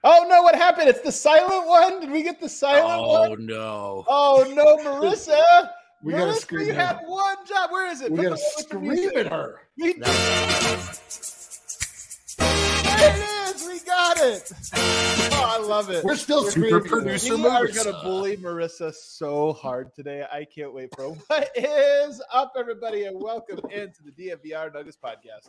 Oh no, what happened? It's the silent one? Did we get the silent one? Oh no. Oh no, Marissa. We gotta Marissa, scream you at had her. one job. Where is it? We Put gotta the one with the scream music. at her. There it is. We got it. Oh, I love it. We're still Super screaming. producer We are Marissa. going to bully Marissa so hard today. I can't wait for it. What is up, everybody, and welcome into the DNVR Nuggets podcast.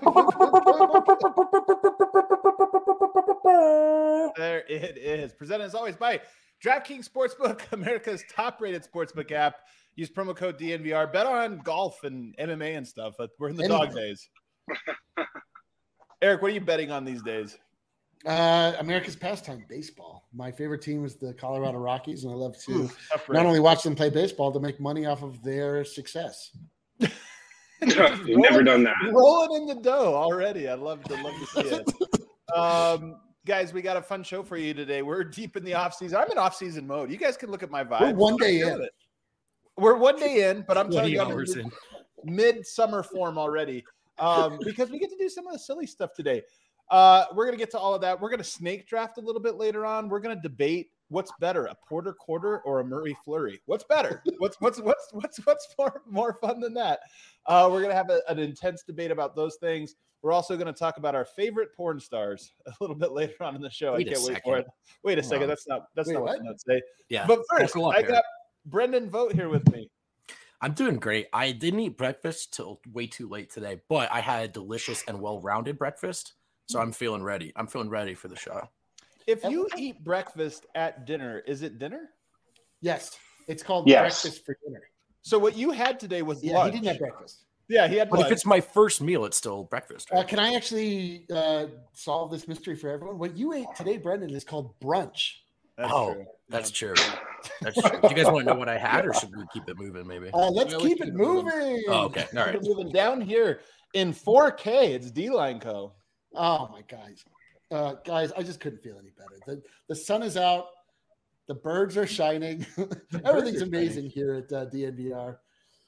There it is. Presented as always by DraftKings Sportsbook, America's top-rated sportsbook app. Use promo code DNVR. Bet on golf and MMA and stuff. We're in the dog days. Eric, what are you betting on these days? America's pastime, baseball. My favorite team is the Colorado Rockies, and I love to Tough not race. only watch them play baseball, to make money off of their success. You've never done that. Rolling in the dough already. I'd love to see it. Guys, we got a fun show for you today. We're deep in the offseason. I'm in offseason mode. You guys can look at my vibe. We're one day I'm feeling in. it. We're one day in, but I'm 20 telling you, I'm hours in in. mid-summer form already because we get to do some of the silly stuff today. We're going to get to all of that. We're going to snake draft a little bit later on. We're going to debate what's better, a Porter Quarter or a Murray Fleury. What's better? What's more fun than that? We're going to have an intense debate about those things. We're also going to talk about our favorite porn stars a little bit later on in the show. Wait I a can't wait second. for it. Wait a second. on. That's not Wait, what what? the notes say. Yeah. But first, Buckle up, I Eric. got Brendan Vogt here with me. I'm doing great. I didn't eat breakfast till way too late today, but I had a delicious and well-rounded breakfast, so I'm feeling ready. I'm feeling ready for the show. If you eat breakfast at dinner, is it dinner? Yes, it's called Yes. breakfast for dinner. So what you had today was Yeah, lunch. he didn't have breakfast. Yeah, he had But lunch. if it's my first meal, it's still breakfast. Right? Can I actually solve this mystery for everyone? What you ate today, Brendan, is called brunch. That's Oh, true. That's true. That's true. Do you guys want to know what I had, or should we keep it moving? Maybe. Let's Yeah, keep let's it keep it moving. moving. Oh, okay. All right. We're moving down here in 4K. It's D-Line Co. Oh my guys, I just couldn't feel any better. The sun is out, the birds are shining, everything's are amazing here at DNVR.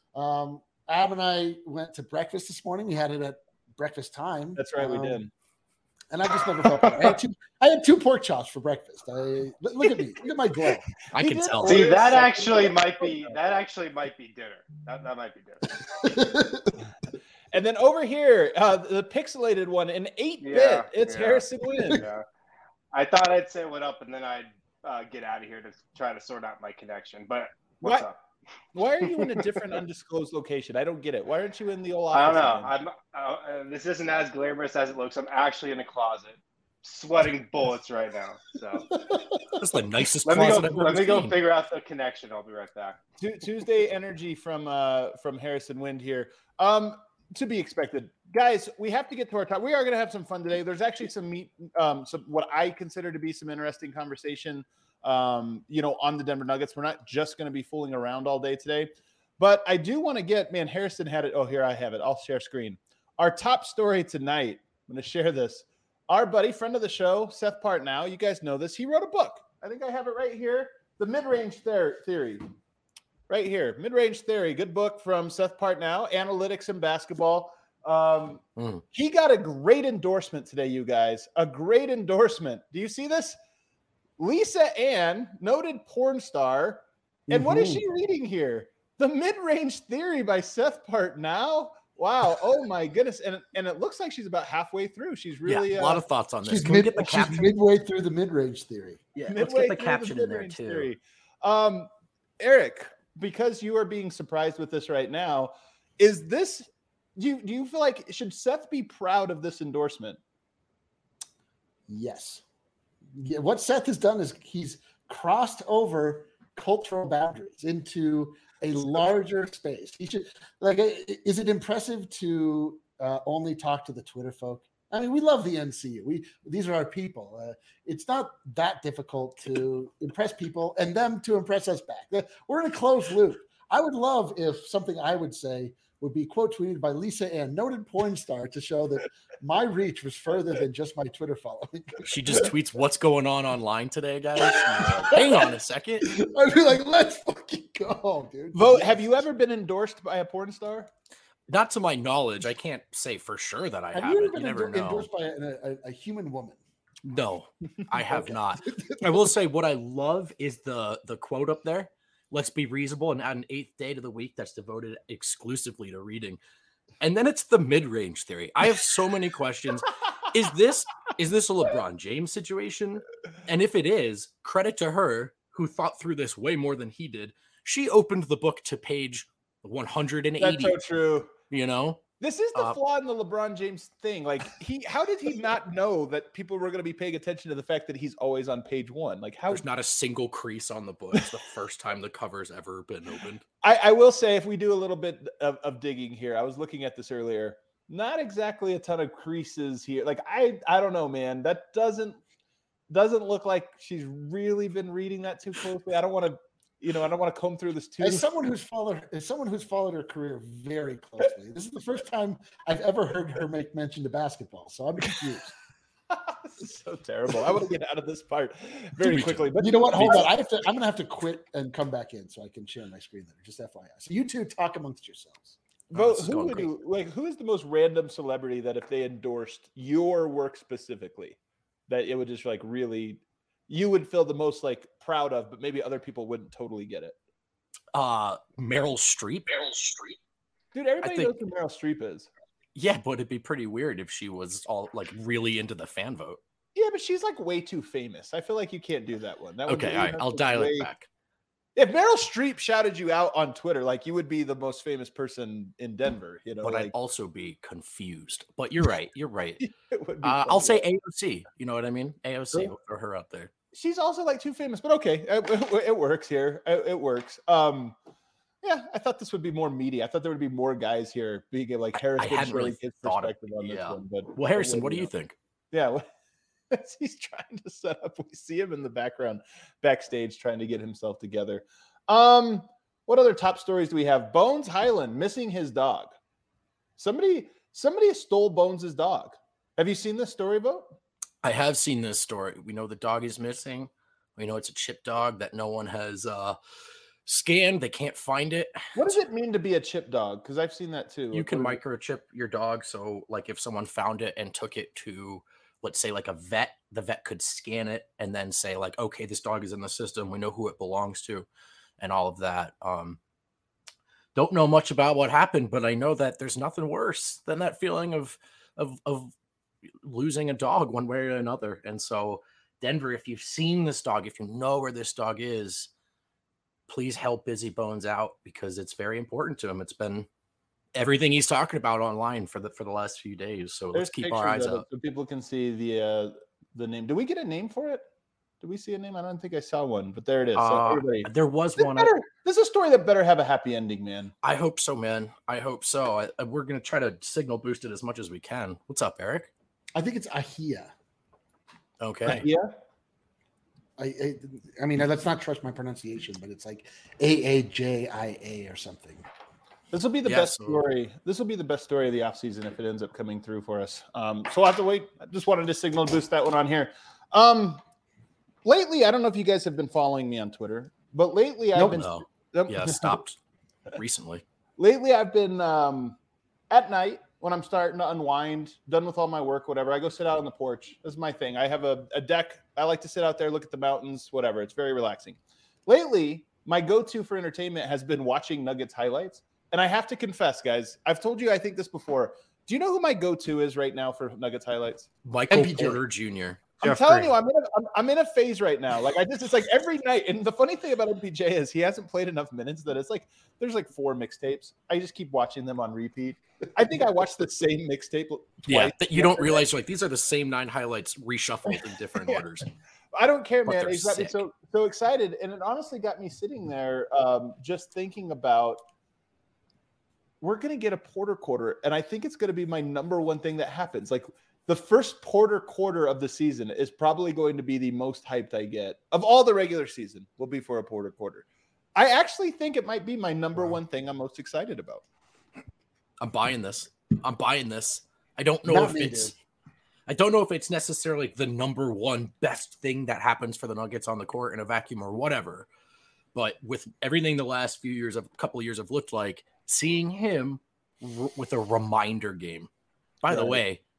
Ab and I went to breakfast this morning. We had it at breakfast time. That's right, we did. And I just never felt better. I had two pork chops for breakfast. Look at me, look at my glow. I He can did tell. order- See, that Second. actually might be dinner. That might be dinner. And then over here, the pixelated one, an 8-bit. Yeah, It's yeah. Harrison Wynn. Yeah. I thought I'd say what up and then I'd get out of here to try to sort out my connection. But what's What? up? Why are you in a different undisclosed location? I don't get it. Why aren't you in the old I don't office? know. again? This isn't as glamorous as it looks. I'm actually in a closet, sweating bullets right now. So That's the nicest let me closet I've go ever seen. figure out the connection. I'll be right back. Tuesday energy from Harrison Wind here. To be expected, guys. We have to get to our top. We are going to have some fun today. There's actually some what I consider to be some interesting conversation. On the Denver Nuggets. We're not just going to be fooling around all day today, but I do want to get. Man, Harrison had it. Oh, here I have it. I'll share screen. Our top story tonight. I'm going to share this. Our buddy, friend of the show, Seth Partnow. You guys know this. He wrote a book. I think I have it right here. The Mid-Range Theory. Right here, Mid-Range Theory, good book from Seth Partnow, Analytics in Basketball. He got a great endorsement today, you guys. A great endorsement. Do you see this? Lisa Ann, noted porn star. And what is she reading here? The Mid-Range Theory by Seth Partnow. Wow. Oh, my goodness. And it looks like she's about halfway through. She's really a lot of thoughts on this. She's, Can we get the caption? midway through the mid-range theory. Yeah, let's midway get the through caption in there Mid-Range too. Theory. Eric, because you are being surprised with this right now, is this do you feel like should Seth be proud of this endorsement? Yes. Yeah, what Seth has done is he's crossed over cultural boundaries into a larger space. He should is it impressive to only talk to the Twitter folk? I mean, we love the NCU. These are our people. It's not that difficult to impress people and them to impress us back. We're in a closed loop. I would love if something I would say would be quote tweeted by Lisa Ann, noted porn star, to show that my reach was further than just my Twitter following. She just tweets what's going on online today, guys. Hang on a second. I'd be like, let's fucking go, dude. Vote. Have you ever been endorsed by a porn star? Not to my knowledge. I can't say for sure that I Have have you it. ever You been never know. endorsed by a human woman? No, I have not. I will say what I love is the quote up there. Let's be reasonable and add an 8th day to the week that's devoted exclusively to reading. And then it's the mid-range theory. I have so many questions. Is this a LeBron James situation? And if it is, credit to her who thought through this way more than he did. She opened the book to page 180. That's so true. You know? This is the flaw in the LeBron James thing. Like how did he not know that people were going to be paying attention to the fact that he's always on page 1? Like there's not a single crease on the book. It's the first time the cover's ever been opened. I will say, if we do a little bit of digging here, I was looking at this earlier. Not exactly a ton of creases here. Like I don't know, man. That doesn't look like she's really been reading that too closely. I don't want to. I don't want to comb through this too. As someone who's followed her career very closely, this is the first time I've ever heard her make mention to basketball. So I'm confused. This is so terrible. I want to get out of this part very quickly. But you know what? Hold on. I'm going to have to quit and come back in so I can share my screen later. Just FYI. So you two talk amongst yourselves. Who is the most random celebrity that if they endorsed your work specifically, that it would just like really, you would feel the most like proud of, but maybe other people wouldn't totally get it? Meryl Streep. Dude, everybody knows who Meryl Streep is. Yeah, but it'd be pretty weird if she was all like really into the fan vote. Yeah, but she's like way too famous. I feel like you can't do that one. Okay, all right, I'll dial it back. If Meryl Streep shouted you out on Twitter, like you would be the most famous person in Denver, But I'd also be confused. But you're right. I'll say AOC. You know what I mean? AOC. We'll throw her out there. She's also like too famous, but okay, it works here. It works. Yeah, I thought this would be more meaty. I thought there would be more guys here being like Harrison. I hadn't really his thought perspective on this one. But Harrison, what do you think? Yeah, he's trying to set up. We see him in the background, backstage, trying to get himself together. What other top stories do we have? Bones Hyland missing his dog. Somebody stole Bones' dog. Have you seen this story, Bo? I have seen this story. We know the dog is missing. We know it's a chip dog that no one has scanned. They can't find it. What does it mean to be a chip dog? Because I've seen that too. You can microchip your dog. So like if someone found it and took it to, let's say like a vet, the vet could scan it and then say like, okay, this dog is in the system. We know who it belongs to and all of that. Don't know much about what happened, but I know that there's nothing worse than that feeling of losing a dog one way or another. And so Denver, if you've seen this dog, if you know where this dog is, please help Busy Bones out because it's very important to him. It's been everything he's talking about online for the last few days. So let's keep our eyes out so people can see the name. Do we get a name for it? Did we see a name? I don't think I saw one, but there it is. So there was one. This is a story that better have a happy ending, man. I hope so, man. I hope so. We're going to try to signal boost it as much as we can. What's up, Eric? I think it's Ahia. Okay. Yeah. I mean, let's not trust my pronunciation, but it's like Aajia or something. This will be the best story. This will be the best story of the offseason if it ends up coming through for us. So we'll have to wait. I just wanted to signal boost that one on here. Lately, I don't know if you guys have been following me on Twitter, but lately I've been stopped recently. Lately, I've been at night when I'm starting to unwind, done with all my work, whatever. I go sit out on the porch. This is my thing. I have a deck. I like to sit out there, look at the mountains, whatever. It's very relaxing. Lately, my go-to for entertainment has been watching Nuggets highlights. And I have to confess, guys, I've told you I think this before. Do you know who my go-to is right now for Nuggets highlights? Michael Porter Jr. I'm telling you, I'm in a phase right now. Like it's like every night. And the funny thing about MPJ is he hasn't played enough minutes that it's like there's like 4 mixtapes. I just keep watching them on repeat. I think I watched the same mixtape twice. Yeah, that you don't realize like these are the same 9 highlights reshuffled in different orders. I don't care, man. It's got me so excited, and it honestly got me sitting there just thinking about we're gonna get a Porter quarter, and I think it's gonna be my number one thing that happens. Like the first Porter quarter of the season is probably going to be the most hyped I get of all the regular season. Will be for a Porter quarter. I actually think it might be my number one thing I'm most excited about. I'm buying this. I don't know I don't know if it's necessarily the number one best thing that happens for the Nuggets on the court in a vacuum or whatever. But with everything the last couple of years have looked like, seeing him with a reminder game. By the way,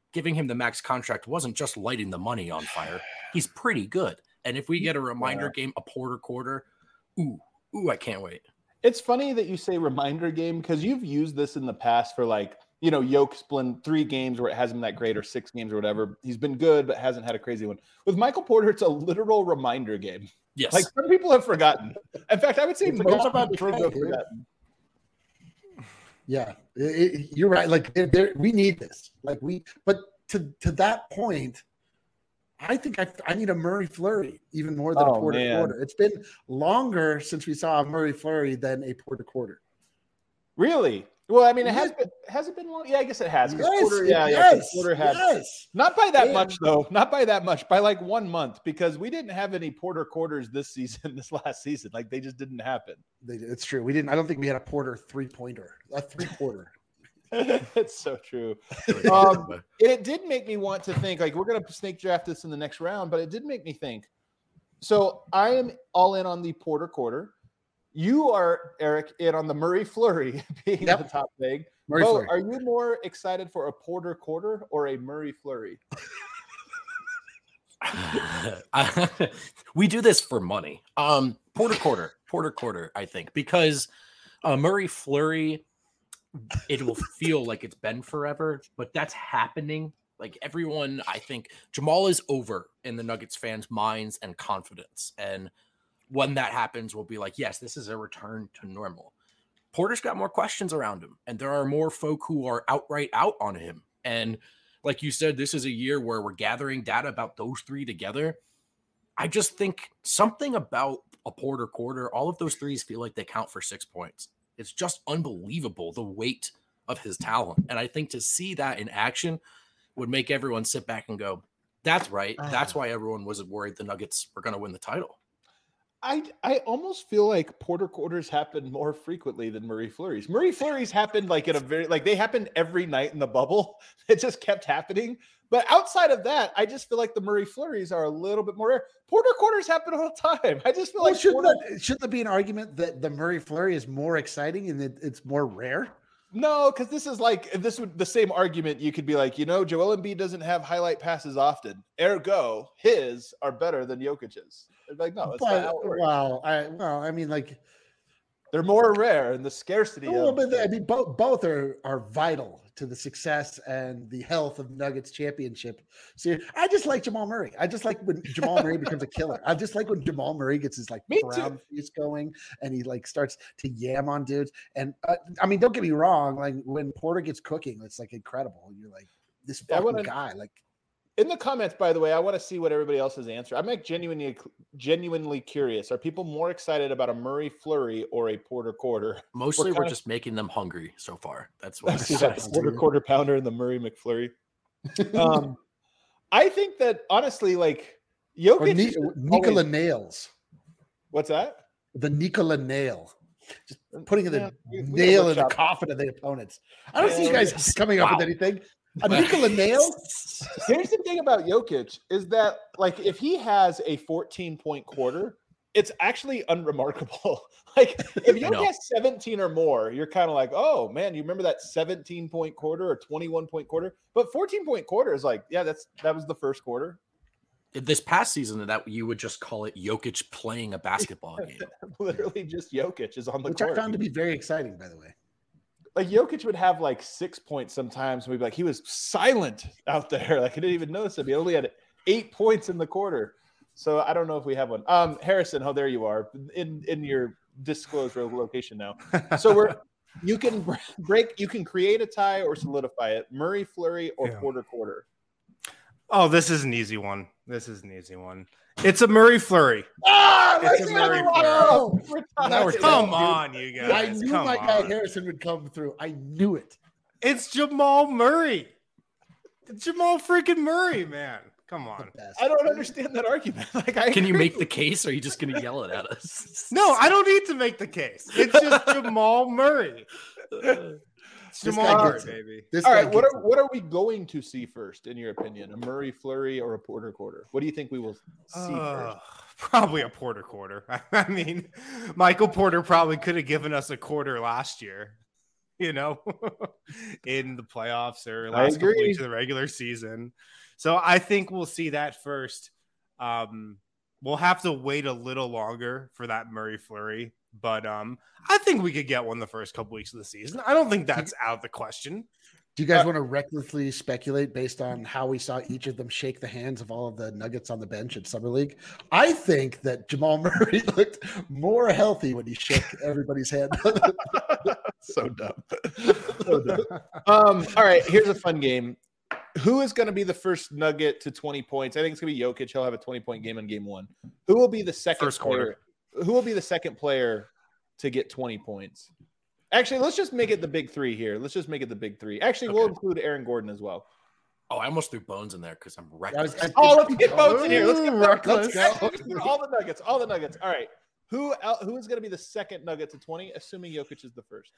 giving him the max contract wasn't just lighting the money on fire. He's pretty good. And if we get a reminder game, a Porter quarter, ooh, I can't wait. It's funny that you say reminder game because you've used this in the past for like, Yoke's been 3 games where it hasn't been that great or 6 games or whatever. He's been good, but hasn't had a crazy one. With Michael Porter, it's a literal reminder game. Yes. Like some people have forgotten. In fact, I would say most about people have forgotten. Yeah, you're right. Like we need this. But to that point, I think I need a Murray Fleury even more than a Porter quarter. It's been longer since we saw a Murray Fleury than a Porter quarter. Really? Well, I mean, has it been long? Yeah, I guess it has. Yes, Porter, Porter had not by that Man. much though. Not by that much. By like 1 month because we didn't have any Porter quarters this last season. Like they just didn't happen. It's true. We didn't. I don't think we had a Porter 3-pointer. A 3-quarter. It's so true. It did make me want to think. Like we're gonna snake draft this in the next round, but it did make me think. So I am all in on the Porter quarter. You are, Eric, in on the Murray Fleury being the top thing. Bo, are you more excited for a Porter quarter or a Murray Fleury? We do this for money. Porter quarter, I think, because Murray Fleury, it will feel like it's been forever, but that's happening. Like everyone, I think Jamal is over in the Nuggets fans' minds and confidence. And when that happens, we'll be like, yes, this is a return to normal. Porter's got more questions around him, and there are more folk who are outright out on him. And like you said, this is a year where we're gathering data about those 3 together. I just think something about a Porter quarter, all of those threes feel like they count for 6 points. It's just unbelievable, the weight of his talent. And I think to see that in action would make everyone sit back and go, that's right. That's why everyone was worried the Nuggets were going to win the title. I almost feel like Porter quarters happen more frequently than Murray Fleury's. Murray Fleury's happened like they happened every night in the bubble. It just kept happening. But outside of that, I just feel like the Murray Fleury's are a little bit more rare. Porter quarters happen all the time. I just feel like shouldn't there be an argument that the Murray Fleury is more exciting and that it's more rare? No, because the same argument you could be like, Joel Embiid doesn't have highlight passes often. Ergo, his are better than Jokic's. Like, no, it's not how it works. I mean, like they're more rare and the scarcity. Both are vital to the success and the health of Nuggets championship. So I just like Jamal Murray. I just like when Jamal Murray becomes a killer. I just like when Jamal Murray gets his brown face going and he starts to yam on dudes. And don't get me wrong. Like when Porter gets cooking, it's like incredible. You're like this fucking guy. Like in the comments, by the way, I want to see what everybody else's answer. I'm like genuinely curious. Are people more excited about a Murray Fleury or a Porter quarter? Mostly we're just making them hungry so far. That's what Porter quarter pounder and the Murray McFlurry. I think that honestly, like Jokic, Nikola nails. What's that? The Nikola nail. Just putting the nail in the coffin of the opponents. I don't see you guys coming up with anything. A Nikola nail? Here's the thing about Jokic is that, like, if he has a 14-point quarter, it's actually unremarkable. Like, if Jokic has 17 or more, you're kind of like, oh, man, you remember that 17-point quarter or 21-point quarter? But 14-point quarter is like, yeah, that was the first quarter. This past season, that you would just call it Jokic playing a basketball game. Literally just Jokic is on the court. Which I found to be very exciting, by the way. Like Jokic would have like 6 points sometimes. And we'd be like, he was silent out there. Like I didn't even notice him. He only had 8 points in the quarter. So I don't know if we have one. Harrison, there you are in your disclosed location now. So you can create a tie or solidify it. Murray Fleury or Porter quarter. Oh, this is an easy one. It's a Murray Fleury. It's a Murray Fleury. Come on, you guys. I knew my guy Harrison would come through. I knew it. It's Jamal Murray. Jamal freaking Murray, man. Come on. I don't understand that argument. Can you make the case, or are you just going to yell it at us? No, I don't need to make the case. It's just Jamal Murray. Jamal Murray, baby. All right, what are we going to see first, in your opinion? A Murray Fleury or a Porter quarter? What do you think we will see first? Probably a Porter quarter. I mean, Michael Porter probably could have given us a quarter last year. in the playoffs or last couple weeks of the regular season. So I think we'll see that first. We'll have to wait a little longer for that Murray flurry, but I think we could get one the first couple weeks of the season. I don't think that's out of the question. Do you guys want to recklessly speculate based on how we saw each of them shake the hands of all of the Nuggets on the bench at Summer League? I think that Jamal Murray looked more healthy when he shook everybody's hand. So dumb. All right, here's a fun game. Who is going to be the first Nugget to 20 points? I think it's going to be Jokic. He'll have a 20-point game in game 1. Who will be the second player? Who will be the second player to get 20 points? Actually, let's just make it the big 3 here. Let's just make it the big 3. Actually, we'll include Aaron Gordon as well. Oh, I almost threw Bones in there because I'm reckless. Let's get Bones in here. Let's get reckless. All the Nuggets. All right. Who is going to be the second Nugget to 20, assuming Jokic is the first?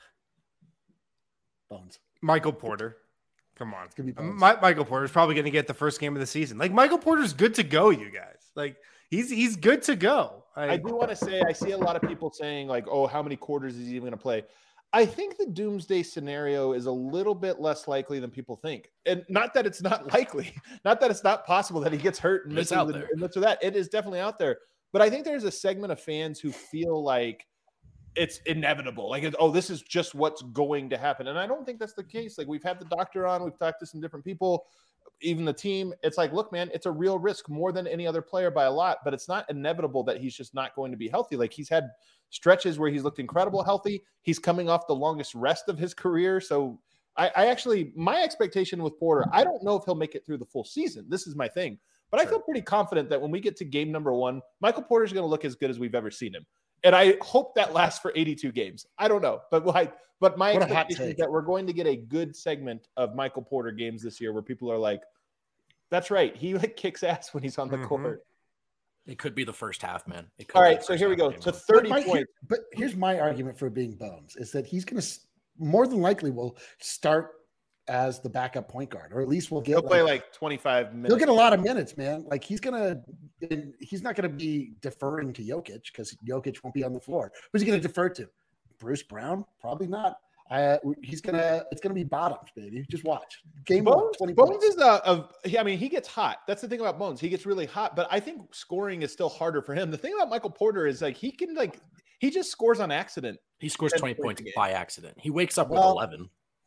Bones. Michael Porter. Come on. It's gonna be Michael Porter's probably going to get the first game of the season. Like, Michael Porter's good to go, you guys. Like, he's good to go. I do want to say, I see a lot of people saying, like, oh, how many quarters is he even going to play? I think the doomsday scenario is a little bit less likely than people think. And not that it's not likely, not that it's not possible that he gets hurt and misses and this or that. It is definitely out there. But I think there's a segment of fans who feel like it's inevitable. Like, this is just what's going to happen. And I don't think that's the case. Like, we've had the doctor on, we've talked to some different people, even the team. It's like, look, man, it's a real risk more than any other player by a lot, but it's not inevitable that he's just not going to be healthy. Like, he's had stretches where he's looked incredible healthy. He's coming off the longest rest of his career. So I actually, my expectation with Porter, I don't know if he'll make it through the full season. This is my thing. But I feel pretty confident that when we get to game number 1, Michael Porter's going to look as good as we've ever seen him. And I hope that lasts for 82 games. I don't know. But my expectation is that we're going to get a good segment of Michael Porter games this year where people are like, that's right. He kicks ass when he's on the court. It could be the first half, man. All right, so here we go to 30 points. But here's my argument for being Bones is that he's going to more than likely will start as the backup point guard, or at least we'll get. He'll play like 25 minutes. He'll get a lot of minutes, man. Like he's not going to be deferring to Jokic because Jokic won't be on the floor. Who's he going to defer to? Bruce Brown? Probably not. It's gonna be bottoms, baby. Just watch. Game Bones, 20 Bones is he gets hot. That's the thing about Bones. He gets really hot, but I think scoring is still harder for him. The thing about Michael Porter is he just scores on accident. He scores 20 points by accident. He wakes up with 11.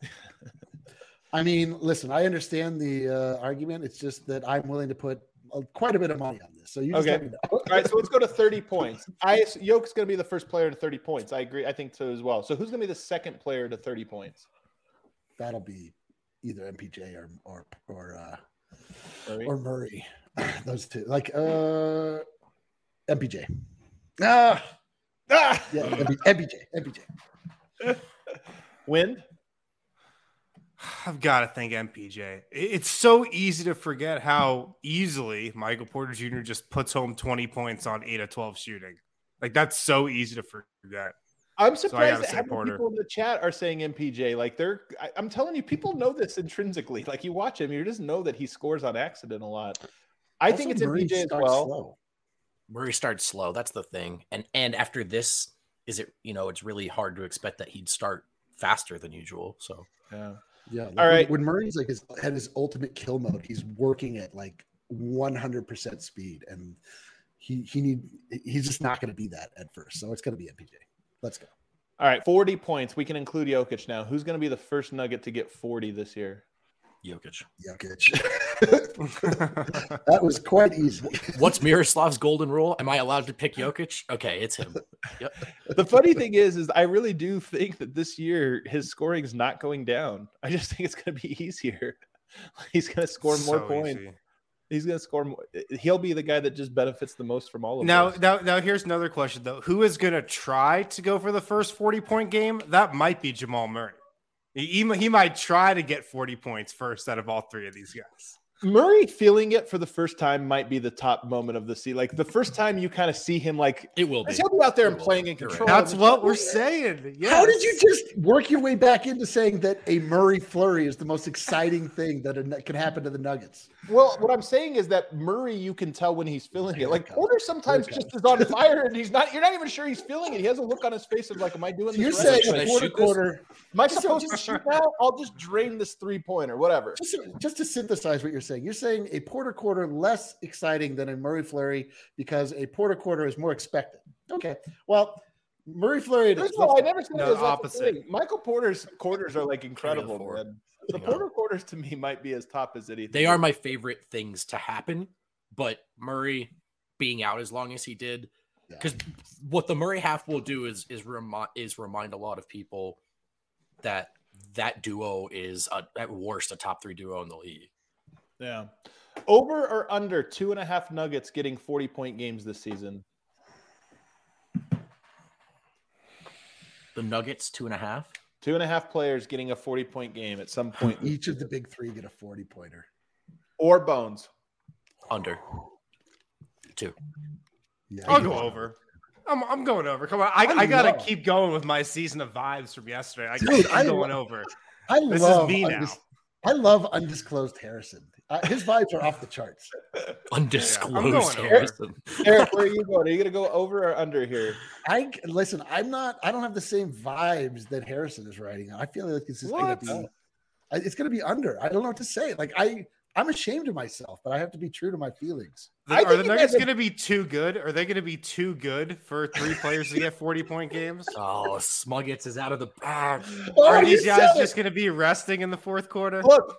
I mean, listen, I understand the argument. It's just that I'm willing to put quite a bit of money on this. So you just let me know. All right, so let's go to 30 points. Yoke's going to be the first player to 30 points. I agree. I think so as well. So who's going to be the second player to 30 points? That'll be either MPJ or Murray. Those two. Like MPJ. Yeah, MPJ. Wind? I've got to think MPJ. It's so easy to forget how easily Michael Porter Jr. just puts home 20 points on 8 of 12 shooting. Like, that's so easy to forget. I'm surprised that how many people in the chat are saying MPJ. Like, I'm telling you, people know this intrinsically. Like, you watch him, you just know that he scores on accident a lot. I think it's MPJ as well. Slow. Murray starts slow. That's the thing. And after this, it's really hard to expect that he'd start faster than usual. So yeah. All right. When Murray's at his ultimate kill mode, he's working at 100% speed, and he's just not going to be that at first. So it's going to be MPJ. Let's go. All right, 40 points. We can include Jokic now. Who's going to be the first Nugget to get 40 this year? Jokic. That was quite easy. What's Miroslav's golden rule? Am I allowed to pick Jokic? Okay, it's him. Yep. The funny thing is I really do think that this year his scoring is not going down. I just think it's going to be easier. He's going to score more points. Easy. He's going to score more. He'll be the guy that just benefits the most from all of this. Now, here's another question, though. Who is going to try to go for the first 40-point game? That might be Jamal Murray. He might try to get 40 points first out of all three of these guys. Murray feeling it for the first time might be the top moment of the season. Like the first time you kind of see him, like it will be. He'll be out there and playing in control. That's what we're saying. Yes. How did you just work your way back into saying that a Murray flurry is the most exciting thing that can happen to the Nuggets? Well, what I'm saying is that Murray, you can tell when he's feeling it. Like Porter sometimes just is on fire and he's not. You're not even sure he's feeling it. He has a look on his face of like, "Am I doing this?" You're right? saying a quarter. Am I supposed to shoot now? I'll just drain this 3-pointer, whatever. Just to synthesize what you're saying, you're saying a Porter quarter less exciting than a Murray flurry because a Porter quarter is more expected. Okay, well, Murray flurry. I never said it was opposite. Michael Porter's quarters are like incredible, man. The Porter quarters to me might be as top as anything. They are my favorite things to happen, but Murray being out as long as he did, because what the Murray half will do is remind a lot of people that duo is at worst a top 3 duo in the league. Yeah. Over or under 2.5 Nuggets getting 40-point games this season? The Nuggets 2.5. 2.5 players getting a 40-point game at some point. Each of the big 3 get a 40-pointer. Or Bones. Under 2. Yeah, I'll go over. I'm going over. Come on. I got to keep going with my season of vibes from yesterday. I'm going over. This is me now. I love undisclosed Harrison. His vibes are off the charts. Undisclosed Harrison. Eric, where are you going? Are you going to go over or under here? I don't have the same vibes that Harrison is writing. I feel like it's going to be under. I don't know what to say. Like I'm ashamed of myself, but I have to be true to my feelings. Are the Nuggets going to be too good? Are they going to be too good for 3 players to get 40-point games? Oh, Smuggets is out of the bag. Are these guys just going to be resting in the fourth quarter? Look,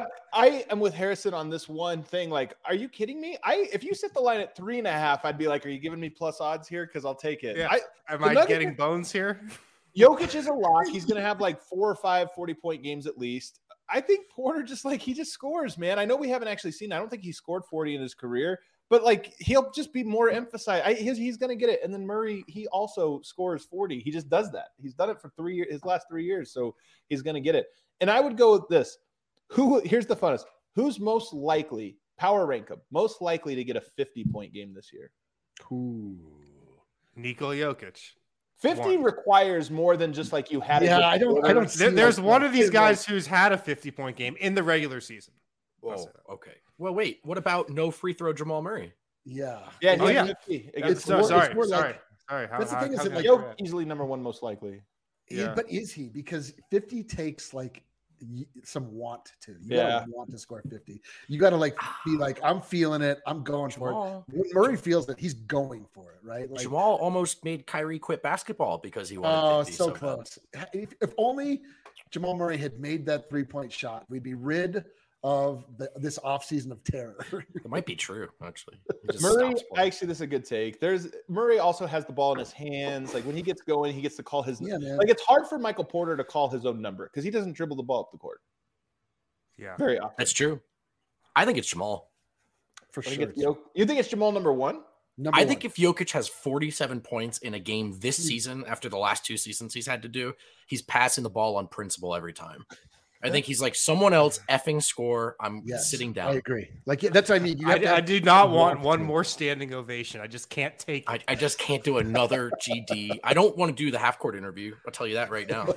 I am with Harrison on this one thing. Like, are you kidding me? If you set the line at 3.5, I'd be like, are you giving me plus odds here? Because I'll take it. Yeah. Am I getting Bones here? Jokic is a lock. He's going to have like 4 or 5 40-point games at least. I think Porter he just scores, man. I know we haven't actually seen. I don't think he scored 40 in his career, but like he'll just be more emphasized. He's going to get it. And then Murray, he also scores 40. He just does that. He's done it for 3 years, his last 3 years, so he's going to get it. And I would go with this. Here's the funnest. Who's most likely, power rank him, most likely to get a 50-point game this year? Ooh. Nikola Jokic. 50 requires more than just like you had. Yeah, I don't. There's one of these guys who's had a 50-point game in the regular season. Oh, okay. Well, wait. What about no free throw Jamal Murray? Yeah. Yeah. Oh, yeah. 50. Sorry. That's the thing is that Jokic easily number 1 most likely. Yeah. But is he? Because 50 takes like some want to. You gotta want to score 50. You gotta be like, I'm feeling it. I'm going for it. When Murray feels that he's going for it, right? Like, Jamal almost made Kyrie quit basketball because he wanted 50 so close. If only Jamal Murray had made that 3-point shot, we'd be rid of this offseason of terror. It might be true, actually. Murray, actually, this is a good take. Murray also has the ball in his hands. Like when he gets going, he gets to call his. Like it's hard for Michael Porter to call his own number because he doesn't dribble the ball up the court. Yeah, very often. That's true. I think it's Jamal for sure. You think it's Jamal number 1? I think if Jokic has 47 points in a game this season after the last 2 seasons he's had to do, he's passing the ball on principle every time. I think he's like someone else effing score. I'm sitting down. I agree. Like that's what I mean. I do not want one more standing ovation. I just can't take it. I just can't do another GD. I don't want to do the half court interview. I'll tell you that right now.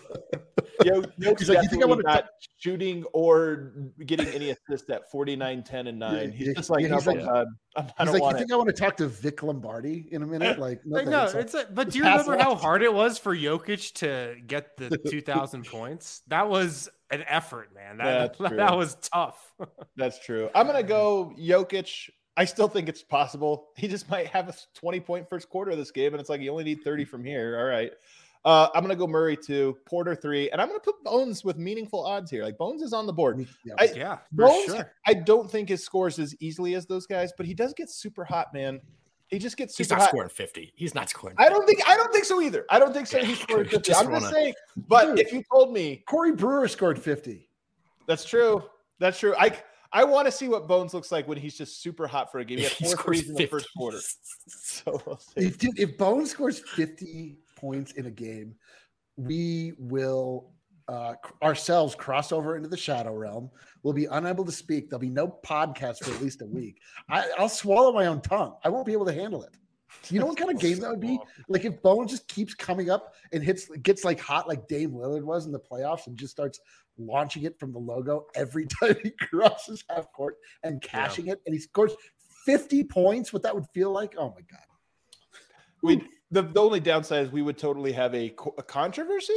He's like, you think I want to shooting or getting any assists at 49, 10, and 9? He's just like, I don't want you think I want to talk to Vic Lombardi in a minute? Like, but do you remember how hard it was for Jokic to get the 2,000 points? That was an effort, man. That was tough. That's true. I'm gonna go Jokic. I still think it's possible. He just might have a 20-point first quarter of this game, and it's like you only need 30 from here. All right. I'm gonna go Murray 2, Porter 3, and I'm gonna put Bones with meaningful odds here. Like Bones is on the board. Bones, sure. I don't think his scores as easily as those guys, but he does get super hot, man. He just gets super hot. He's not scoring 50. He's not scoring 50. I don't think so either. I don't think so. He's scoring 50. I'm just saying. But if you told me Corey Brewer scored 50. That's true. That's true. I want to see what Bones looks like when he's just super hot for a game. He had 4 threes in the first quarter. So we'll see. If Bones scores 50 points in a game, we will ourselves cross over into the shadow realm. We'll be unable to speak. There'll be no podcast for at least a week. I'll swallow my own tongue. I won't be able to handle it. You know what kind of game that would be? Like if Bones just keeps coming up and gets like hot like Dame Lillard was in the playoffs and just starts launching it from the logo every time he crosses half court and cashing it, and he scores 50 points. What that would feel like? Oh my God. The only downside is we would totally have a controversy.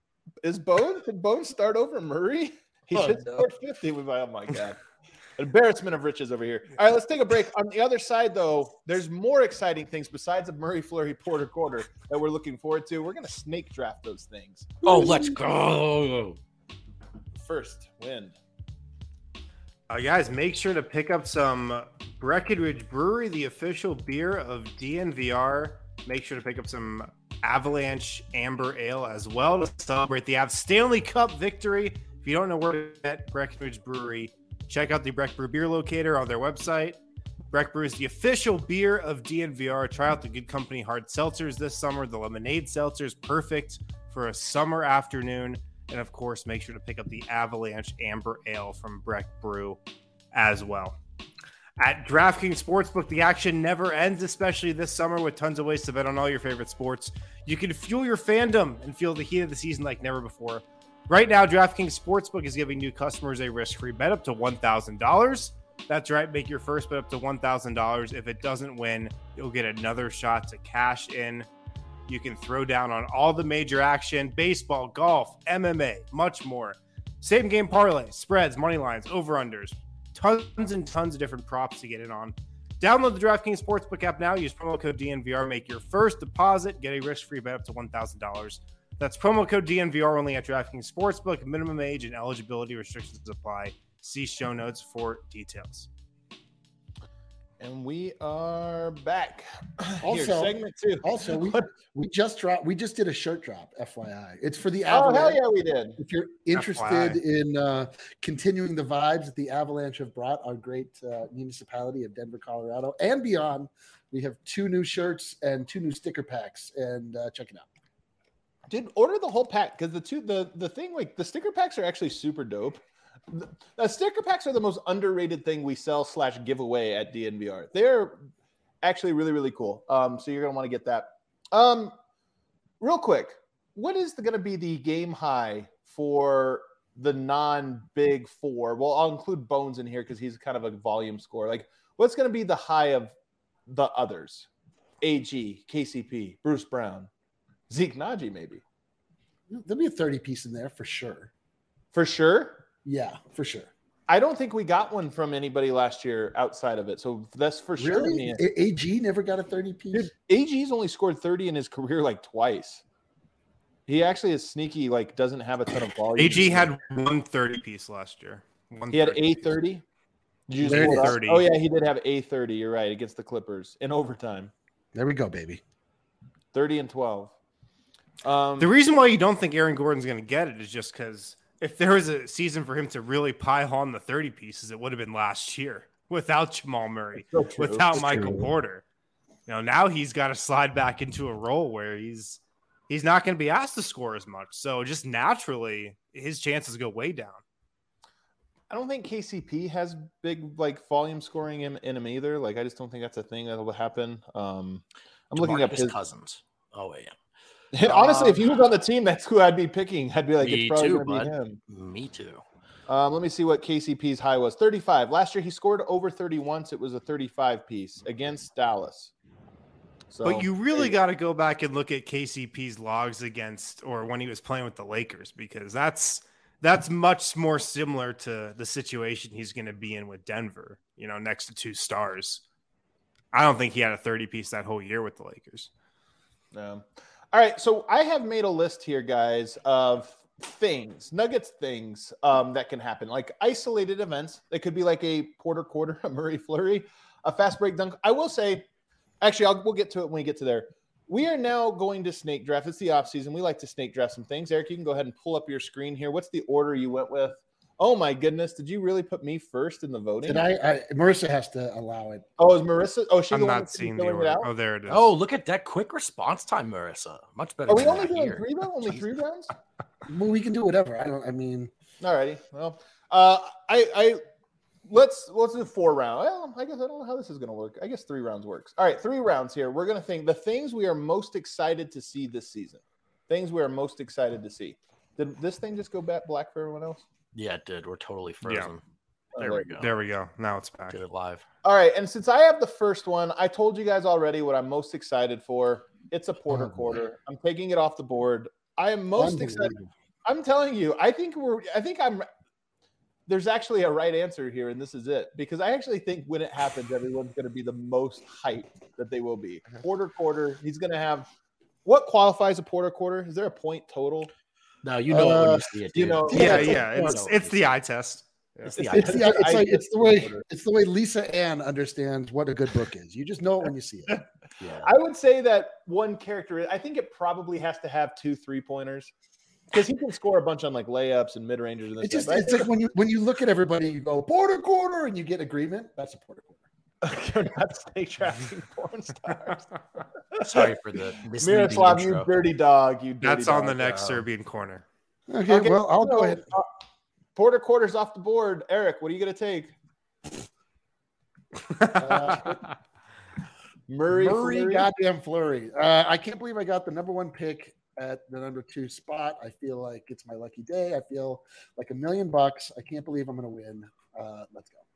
Did Bones start over Murray? He should score 50. Oh my God. Embarrassment of riches over here. All right, let's take a break. On the other side, though, there's more exciting things besides the Murray Fleury Porter quarter that we're looking forward to. We're going to snake draft those things. Oh, let's go. First, Wind. Guys, make sure to pick up some Breckenridge Brewery, the official beer of DNVR. Make sure to pick up some Avalanche Amber Ale as well to celebrate the Avs Stanley Cup victory. If you don't know where to get Breckenridge Brewery, check out the Breck Brew Beer Locator on their website. Breck Brew is the official beer of DNVR. Try out the Good Company hard seltzers this summer. The lemonade seltzer is perfect for a summer afternoon. And of course, make sure to pick up the Avalanche Amber Ale from Breck Brew as well. At DraftKings Sportsbook, the action never ends, especially this summer with tons of ways to bet on all your favorite sports. You can fuel your fandom and feel the heat of the season like never before. Right now, DraftKings Sportsbook is giving new customers a risk-free bet up to $1,000. That's right, make your first bet up to $1,000. If it doesn't win, you'll get another shot to cash in. You can throw down on all the major action, baseball, golf, MMA, much more. Same game parlay, spreads, money lines, over-unders, tons and tons of different props to get in on. Download the DraftKings Sportsbook app now. Use promo code DNVR. Make your first deposit. Get a risk-free bet up to $1,000. That's promo code DNVR only at DraftKings Sportsbook. Minimum age and eligibility restrictions apply. See show notes for details. And we are back. Also, segment 2. Also, we just did a shirt drop, FYI. It's for the Avalanche. Avalanche. Oh, hell yeah, we did. If you're interested in continuing the vibes that the Avalanche have brought our great municipality of Denver, Colorado, and beyond, we have 2 new shirts and 2 new sticker packs, and check it out. Dude, order the whole pack because the thing, like, the sticker packs are actually super dope. The sticker packs are the most underrated thing we sell / give away at DNVR. They're actually really, really cool. So you're going to want to get that. Real quick, what is going to be the game high for the non-big 4? Well, I'll include Bones in here because he's kind of a volume scorer. Like, what's going to be the high of the others? AG, KCP, Bruce Brown, Zeke Naji, maybe. There'll be a 30 piece in there for sure. For sure? Yeah, for sure. I don't think we got one from anybody last year outside of it. So that's for sure. Really? AG never got a 30 piece? Dude, AG's only scored 30 in his career like twice. He actually is sneaky, like doesn't have a ton of volume. AG had 1 30 piece last year. He had a 30? Did you just 30. Oh, yeah, he did have a 30. You're right, against the Clippers in overtime. There we go, baby. 30 and 12. The reason why you don't think Aaron Gordon's going to get it is just because if there was a season for him to really pile on the 30 pieces, it would have been last year without Jamal Murray, without Michael Porter. You know, now he's got to slide back into a role where he's not going to be asked to score as much. So just naturally, his chances go way down. I don't think KCP has big like volume scoring in him either. Like I just don't think that's a thing that will happen. I'm looking up his Cousins. Oh yeah. Honestly, if he was on the team, that's who I'd be picking. I'd be like, it's probably going to be him. Me too. Let me see what KCP's high was. 35. Last year, he scored over 30 once. It was a 35 piece against Dallas. So, but you really got to go back and look at KCP's logs against or when he was playing with the Lakers, because that's much more similar to the situation he's going to be in with Denver, you know, next to 2 stars. I don't think he had a 30 piece that whole year with the Lakers. All right, so I have made a list here, guys, of things, Nuggets things that can happen, like isolated events. It could be like a Porter quarter, a Murray Fleury, a fast break dunk. I will say, actually, we'll get to it when we get to there. We are now going to snake draft. It's the offseason. We like to snake draft some things. Eric, you can go ahead and pull up your screen here. What's the order you went with? Oh, my goodness. Did you really put me first in the voting? Did I Marissa has to allow it. Oh, is Marissa? Oh, she's I'm not seeing the order. Oh, there it is. Oh, look at that quick response time, Marissa. Much better. Are we only doing 3 though? Only 3 rounds? Well, we can do whatever. Alrighty. Well, let's do 4 rounds. Well, I guess I don't know how this is going to work. I guess 3 rounds works. All right, 3 rounds here. We're going to think the things we are most excited to see this season. Things we are most excited to see. Did this thing just go back black for everyone else? Yeah, it did. We're totally frozen. Yeah. There we go. Now it's back. Did it live. All right, and since I have the first one, I told you guys already what I'm most excited for. It's a Porter Quarter. I'm taking it off the board. I am most excited. I'm telling you, there's actually a right answer here, and this is it. Because I actually think when it happens, everyone's going to be the most hyped that they will be. Porter Quarter, he's going to have – what qualifies a Porter Quarter? Is there a point total? No, you know it when you see it, dude. It's the eye test. Yeah. It's the way Lisa Ann understands what a good book is. You just know it when you see it. Yeah. I would say that one character, I think it probably has to have 2 3-pointers because he can score a bunch on like layups and mid rangers. And it's like when you look at everybody, you go Porter Quarter, and you get agreement. That's a Porter Quarter. You're not stay tracking porn stars. Sorry for the Miroslav, you dirty dog. That's on the next Serbian corner. Okay, well, I'll go ahead. Porter Quarter's off the board. Eric, what are you going to take? Murray goddamn Fleury. I can't believe I got the number 1 pick at the number 2 spot. I feel like it's my lucky day. I feel like $1 million. I can't believe I'm going to win. Let's go.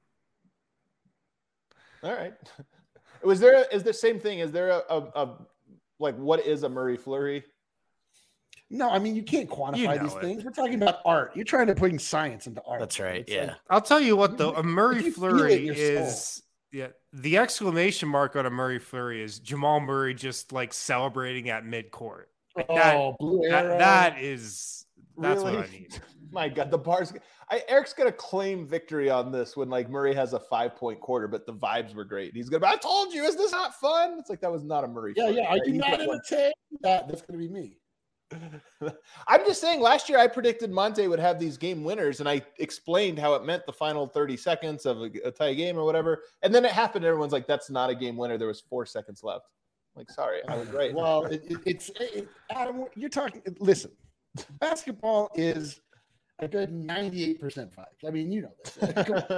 All right. Is the same thing? Is there a what is a Murray Fleury? No, I mean, you can't quantify these things. We're talking about art. You're trying to bring science into art. That's right. It's yeah. I'll tell you what, though. A Murray Fleury is the exclamation mark on a Murray Fleury is Jamal Murray just like celebrating at midcourt. Like blue arrow. That's really? what I need. My God, the bars. Eric's gonna claim victory on this when like Murray has a 5-point quarter, but the vibes were great. He's gonna. I told you, is this not fun? It's like that was not a Murray. Yeah, Fleury, yeah. Are you not entertained? That's gonna be me. I'm just saying last year I predicted Monte would have these game winners and I explained how it meant the final 30 seconds of a tie game or whatever. And then it happened. Everyone's like, that's not a game winner. There was 4 seconds left. I'm like, sorry, I was right. Well, Adam, you're talking, listen, basketball is a good 98% vibes. I mean, you know this.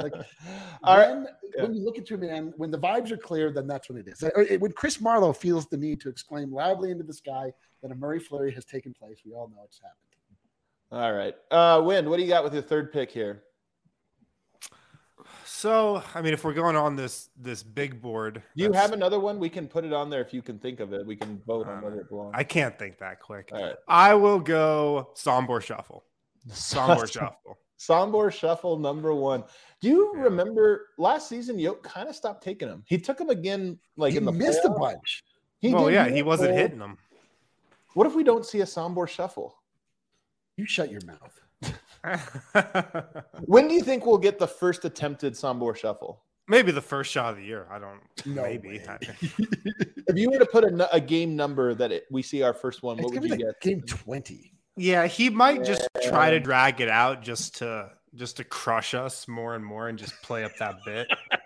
When you look at your man, when the vibes are clear, then that's when it is. When Chris Marlowe feels the need to exclaim loudly into the sky that a Murray Fleury has taken place, we all know it's happened. All right. Wind, what do you got with your 3rd pick here? So, I mean, if we're going on this big board. Do you have another one? We can put it on there if you can think of it. We can vote on whether it belongs. I can't think that quick. All right. I will go Sombor Shuffle. Sombor Shuffle. Sombor Shuffle number 1. Do you remember last season? Yoke kind of stopped taking him. He took him again, like in the missed playoffs. a bunch. He wasn't hitting them. What if we don't see a Sombor Shuffle? You shut your mouth. When do you think we'll get the first attempted Sombor Shuffle? Maybe the first shot of the year. I don't know. Maybe. If you were to put a game number that we see our first one, what would you get? Game 20. Yeah, he might just try to drag it out just to crush us more and more and just play up that bit.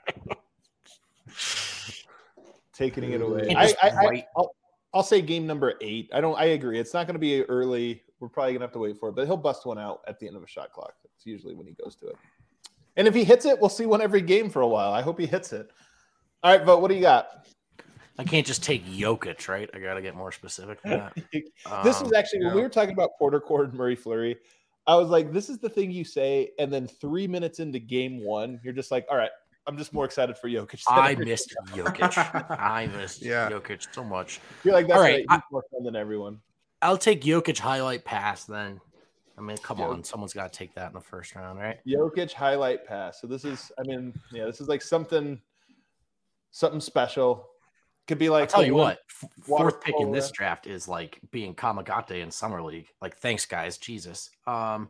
Taking it away. I'll say game number 8. I agree. It's not going to be early. We're probably going to have to wait for it, but he'll bust one out at the end of a shot clock. That's usually when he goes to it. And if he hits it, we'll see one every game for a while. I hope he hits it. All right, Vogt, what do you got? I can't just take Jokic, right? I got to get more specific than that. This is actually, when we were talking about Porter Quarter and Murray Fleury, I was like, this is the thing you say, and then 3 minutes into game 1, you're just like, all right, I'm just more excited for Jokic. I missed Jokic. I missed Jokic so much. You're like, that's all right. He's more fun than everyone. I'll take Jokic highlight pass then. I mean, come on. Someone's got to take that in the first round, right? Jokic highlight pass. So this is, this is like something special. Could be like, I'll tell you what, 4th pick in this draft is like being Kamagate in Summer League. Like, thanks, guys. Jesus. All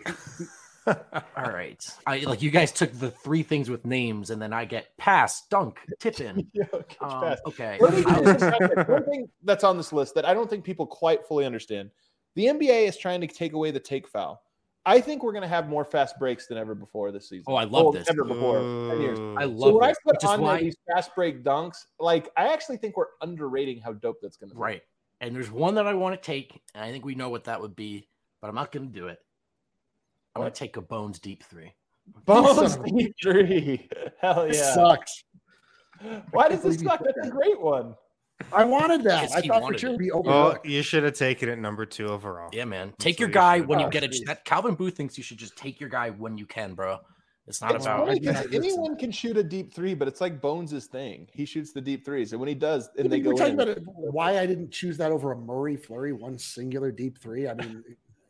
right. You guys took the 3 things with names, and then I get pass, dunk, tip in. Pass. Okay. One thing that's on this list that I don't think people quite fully understand. The NBA is trying to take away the take foul. I think we're going to have more fast breaks than ever before this season. Oh, I love this. Ever before. 10 years. I love so when this. I put on there these fast break dunks, like I actually think we're underrating how dope that's going to be. Right. And there's one that I want to take, and I think we know what that would be. but I'm not going to do it. I'm going to take a Bones deep three. Bones deep three. Hell yeah. It sucks. Why does this suck? That's a great one. I wanted that. I thought for sure it'd be overlooked. Well, you should have taken it number 2 overall. Yeah, man. Take your guy when you get it. That Calvin Booth thinks you should just take your guy when you can, bro. It's not about anyone can shoot a deep three, but it's like Bones' thing. He shoots the deep threes, and when he does, and they go talking in. About why I didn't choose that over a Murray Fleury, one singular deep three. I mean,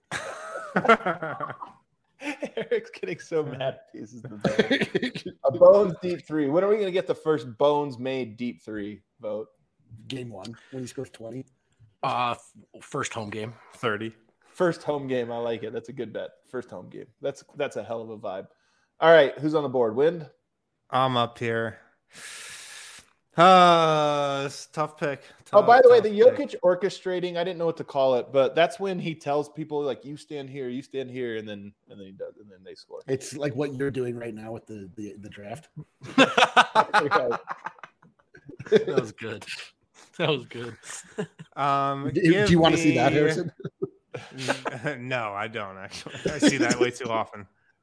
Eric's getting so mad. Pieces of a Bones deep three. When are we going to get the first Bones made deep three vote? Game 1 when he scores 20. First home game. 30. First home game. I like it. That's a good bet. First home game. That's a hell of a vibe. All right, who's on the board? Wind? I'm up here. It's tough pick. By the way, the Jokic orchestrating, I didn't know what to call it, but that's when he tells people like you stand here, and then he does, and then they score. It's like what you're doing right now with the draft. That was good. That was good. Do you want to see that, Harrison? No, I don't actually. I see that way too often.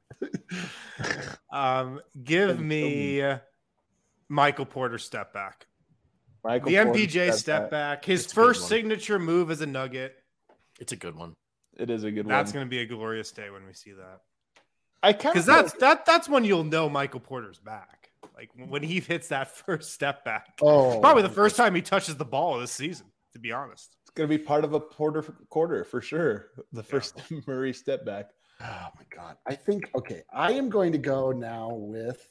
Give me Michael Porter step back. MPJ step back. His first signature move as a Nugget. It's a good one. It is a good one. That's going to be a glorious day when we see that. Because that's when you'll know Michael Porter's back. Like when he hits that first step back. Oh, probably the first time he touches the ball this season. To be honest, it's going to be part of a Porter quarter for sure. The first Murray step back. Oh my God. I think, okay, I am going to go now with,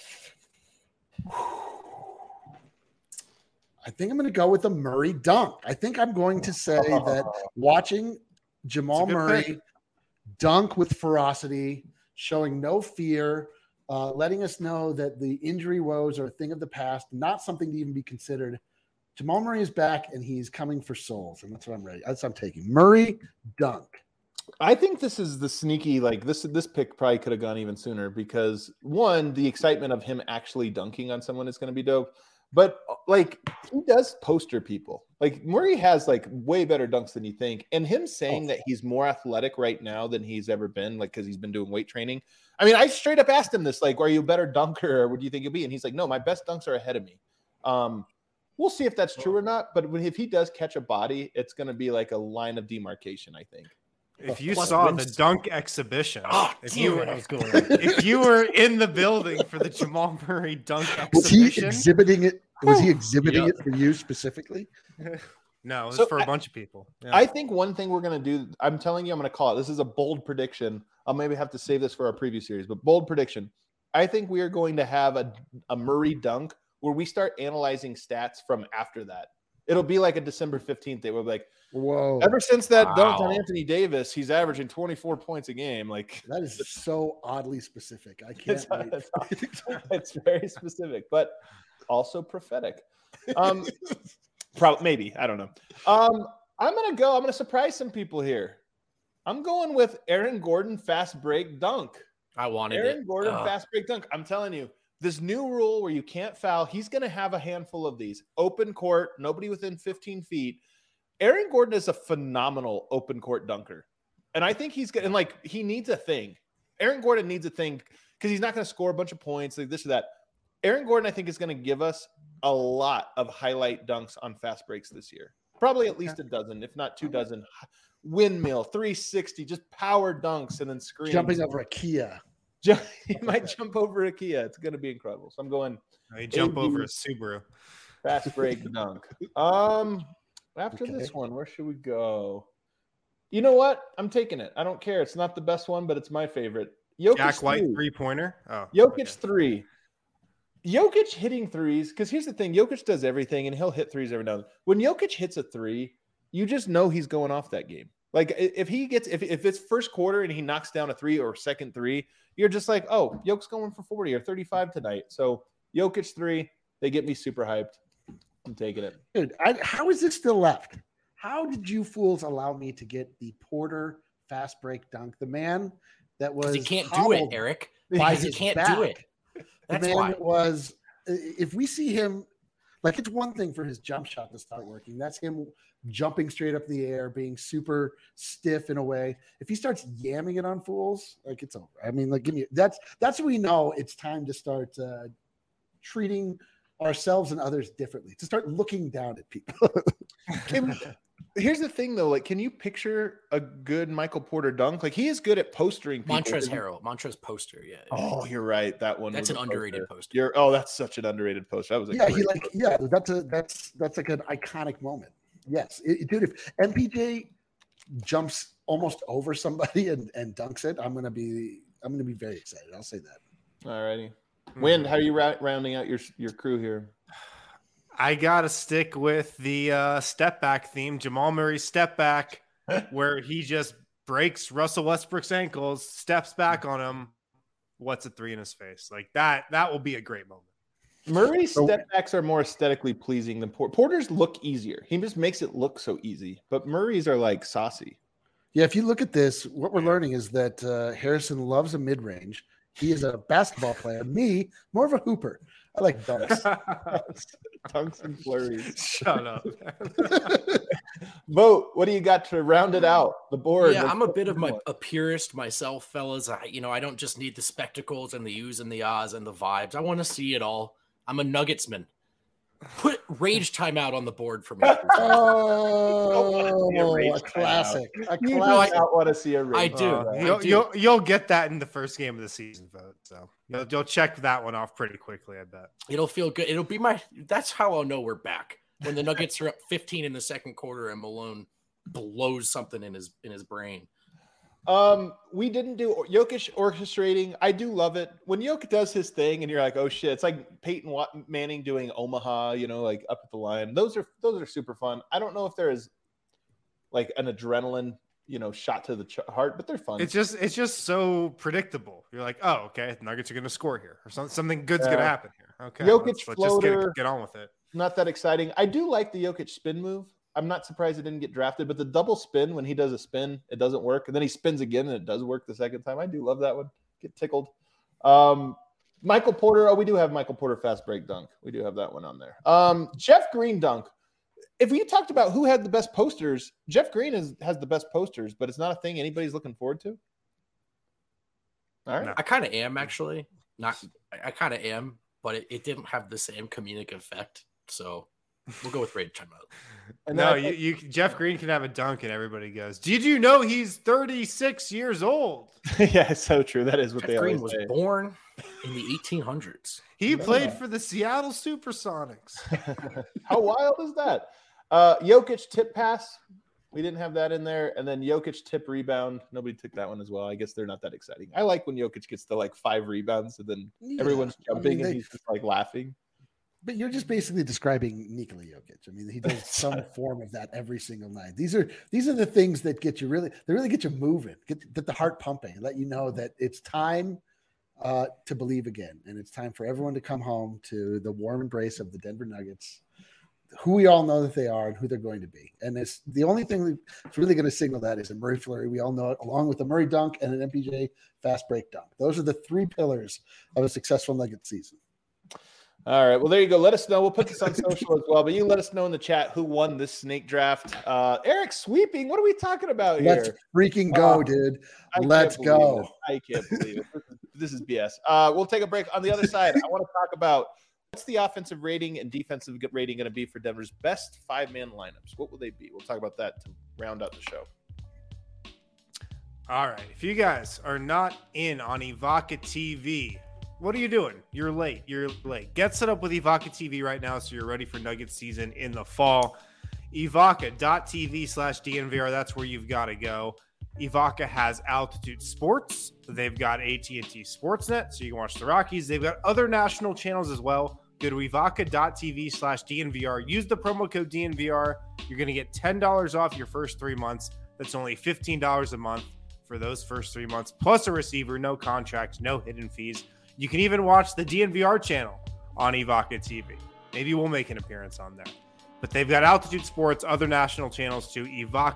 I think I'm going to go with a Murray dunk. I think I'm going to say that watching Jamal Murray dunk with ferocity, showing no fear, letting us know that the injury woes are a thing of the past, not something to even be considered. Jamal Murray is back and he's coming for souls. And that's what I'm ready. That's what I'm taking. Murray dunk. I think this is the sneaky, like this pick probably could have gone even sooner because one, the excitement of him actually dunking on someone is going to be dope. But like he does poster people. Like Murray has like way better dunks than you think. And him saying that he's more athletic right now than he's ever been, like because he's been doing weight training. I mean, I straight up asked him this, like, are you a better dunker or what do you think you'll be? And he's like, no, my best dunks are ahead of me. We'll see if that's true or not. But if he does catch a body, it's going to be like a line of demarcation, I think. If you saw the dunk exhibition, if you were in the building for the Jamal Murray dunk exhibition, was he exhibiting it? Was he exhibiting it for you specifically? No, it was for a bunch of people. Yeah. I think one thing we're going to do, I'm telling you, I'm going to call it. This is a bold prediction. I'll maybe have to save this for our preview series, but bold prediction. I think we are going to have a Murray dunk where we start analyzing stats from after that. It'll be like a December 15th day. We'll be like, whoa. Ever since that dunk on Anthony Davis, he's averaging 24 points a game. Like that is so oddly specific. I can't wait. It's very specific, but also prophetic. Maybe. I don't know. I'm going to surprise some people here. I'm going with Aaron Gordon fast break dunk. I wanted Aaron Gordon fast break dunk. I'm telling you, this new rule where you can't foul, he's going to have a handful of these. Open court, nobody within 15 feet. Aaron Gordon is a phenomenal open court dunker. And I think he's going to, he needs a thing. Aaron Gordon needs a thing because he's not going to score a bunch of points, like this or that. Aaron Gordon, I think, is going to give us a lot of highlight dunks on fast breaks this year. Probably at least a dozen, if not 2 dozen. Windmill, 360, just power dunks and then screens. Jumping over a Kia. He might jump over a Kia. It's going to be incredible. So I'm going. He jump over a Subaru. Fast break dunk. After this one, where should we go? You know what? I'm taking it. I don't care. It's not the best one, but it's my favorite. Jokic Jack White 3-pointer. Oh, Jokic 3. Jokic hitting threes, because here's the thing. Jokic does everything, and he'll hit threes every now and then. When Jokic hits a 3, you just know he's going off that game. Like if it's first quarter and he knocks down a 3 or second 3, you're just like, oh, Jokic's going for 40 or 35 tonight. So Jokic 3, they get me super hyped. I'm taking it. Dude, how is this still left? How did you fools allow me to get the Porter fast break dunk? The man that was he can't do it, Eric. He can't do it. That's why. Was if we see him Like, it's one thing for his jump shot to start working. That's him jumping straight up in the air, being super stiff in a way. If he starts yamming it on fools, like, it's over. I mean, like, that's when we know it's time to start treating ourselves and others differently, to start looking down at people. Here's the thing, though. Like, can you picture a good Michael Porter dunk? Like, he is good at postering people. Montrezl poster, yeah. Oh, you're right. That one. That's an underrated poster. That's such an underrated poster. That was that's like an iconic moment. Yes, dude. If MPJ jumps almost over somebody and dunks it, I'm gonna be very excited. I'll say that. All righty. Wind, how are you rounding out your crew here? I got to stick with the step back theme, Jamal Murray's step back, where he just breaks Russell Westbrook's ankles, steps back on him. What's a three in his face? Like that will be a great moment. Murray's step backs are more aesthetically pleasing than Porter's look easier. He just makes it look so easy, but Murray's are like saucy. Yeah, if you look at this, what we're learning is that Harrison loves a mid-range. He is a basketball player. Me, more of a hooper. I like dunks. Dunks and flurries. Shut up. Vote. What do you got to round it out? The board. Yeah, I'm a bit of a purist myself, fellas. I don't just need the spectacles and the oohs and the ahs and the vibes. I want to see it all. I'm a Nuggetsman. Put Rage Timeout on the board for me. A classic. I want to see a Rage. I do. You'll get that in the first game of the season vote. So you'll check that one off pretty quickly, I bet. It'll feel good. It'll be that's how I'll know we're back. When the Nuggets are up 15 in the second quarter and Malone blows something in his brain. We didn't do Jokic orchestrating. I do love it when Jokic does his thing, and you're like, "Oh shit!" It's like Peyton Manning doing Omaha, like up at the line. Those are super fun. I don't know if there is like an adrenaline, shot to the heart, but they're fun. It's just so predictable. You're like, "Oh, okay, the Nuggets are going to score here, or something good's going to happen here." Okay, Jokic let's floater, just get on with it. Not that exciting. I do like the Jokic spin move. I'm not surprised it didn't get drafted, but the double spin, when he does a spin, it doesn't work. And then he spins again and it does work the second time. I do love that one. Get tickled. Michael Porter. Oh, we do have Michael Porter fast break dunk. We do have that one on there. Jeff Green dunk. If we talked about who had the best posters, Jeff Green has the best posters, but it's not a thing anybody's looking forward to. All right. I kind of am, actually. I kind of am, but it didn't have the same comedic effect. So we'll go with Rage Timeout. No, Jeff Green can have a dunk and everybody goes, "Did you know he's 36 years old?" Yeah, it's so true. That is what Jeff they Green always was say. born in the 1800s. He played for the Seattle Supersonics. How wild is that? Jokic tip pass. We didn't have that in there. And then Jokic tip rebound. Nobody took that one as well. I guess they're not that exciting. I like when Jokic gets to like 5 rebounds and then everyone's jumping and he's just like laughing. But you're just basically describing Nikola Jokic. I mean, he does some form of that every single night. These are the things that get you really get you moving, get the heart pumping, let you know that it's time to believe again. And it's time for everyone to come home to the warm embrace of the Denver Nuggets, who we all know that they are and who they're going to be. And it's the only thing that's really going to signal that is a Murray flurry. We all know it, along with a Murray dunk and an MPJ fast break dunk. Those are the 3 pillars of a successful Nugget season. All right. Well, there you go. Let us know. We'll put this on social as well, but you let us know in the chat who won this snake draft. Eric sweeping. What are we talking about here? Let's freaking go, dude. Let's go. I can't believe it. This is BS. We'll take a break. On the other side, I want to talk about what's the offensive rating and defensive rating going to be for Denver's best 5-man lineups. What will they be? We'll talk about that to round out the show. All right. If you guys are not in on Evoca TV, what are you doing? You're late. Get set up with Evoca TV right now so you're ready for Nuggets season in the fall. Evoca.tv/DNVR. That's where you've got to go. Evoca has Altitude Sports. They've got AT&T Sportsnet, so you can watch the Rockies. They've got other national channels as well. Go to Evoca.tv/DNVR. Use the promo code DNVR. You're going to get $10 off your first 3 months. That's only $15 a month for those first 3 months, plus a receiver, no contract, no hidden fees. You can even watch the DNVR channel on Evoca TV. Maybe we'll make an appearance on there. But they've got Altitude Sports, other national channels too,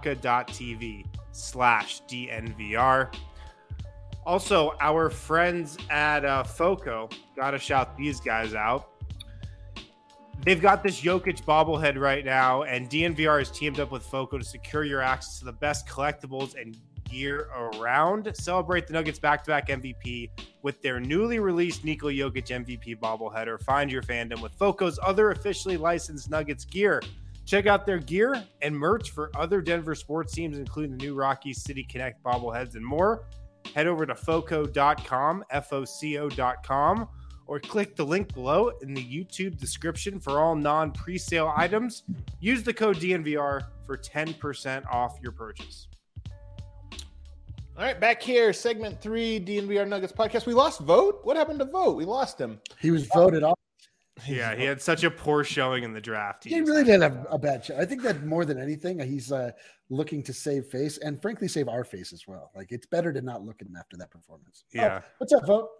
evoca.tv/DNVR. Also, our friends at FOCO, got to shout these guys out. They've got this Jokic bobblehead right now, and DNVR has teamed up with FOCO to secure your access to the best collectibles and gear around. Celebrate the Nuggets back-to-back MVP with their newly released Nikola Jokic MVP bobbleheader. Find your fandom with FOCO's other officially licensed Nuggets gear. Check out their gear and merch for other Denver sports teams, including the new Rockies City Connect bobbleheads and more. Head over to foco.com, FOCO.com, or click the link below in the YouTube description for all non-presale items. Use the code DNVR for 10% off your purchase. All right, back here, segment 3, DNVR Nuggets podcast. We lost Vogt. What happened to Vogt? We lost him. He was voted off. Yeah, he had such a poor showing in the draft. He really did have a bad show. I think that more than anything, he's looking to save face and frankly save our face as well. Like, it's better to not look at him after that performance. Yeah. Oh, what's up, Vogt?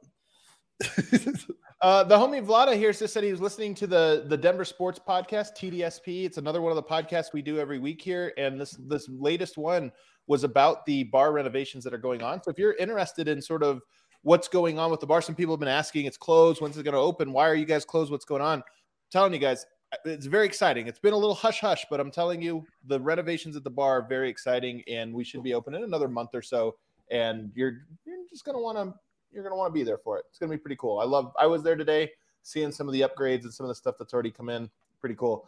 The homie Vlada here just said he was listening to the Denver Sports Podcast, TDSP. It's another one of the podcasts we do every week here, and this latest one was about the bar renovations that are going on. So if you're interested in sort of what's going on with the bar, some people have been asking, it's closed, when's it going to open? Why are you guys closed? What's going on? I'm telling you guys, it's very exciting. It's been a little hush-hush, but I'm telling you, the renovations at the bar are very exciting, and we should be open in another month or so, and you're just going to want to you're going to want to be there for it. It's going to be pretty cool. I was there today seeing some of the upgrades and some of the stuff that's already come in. Pretty cool.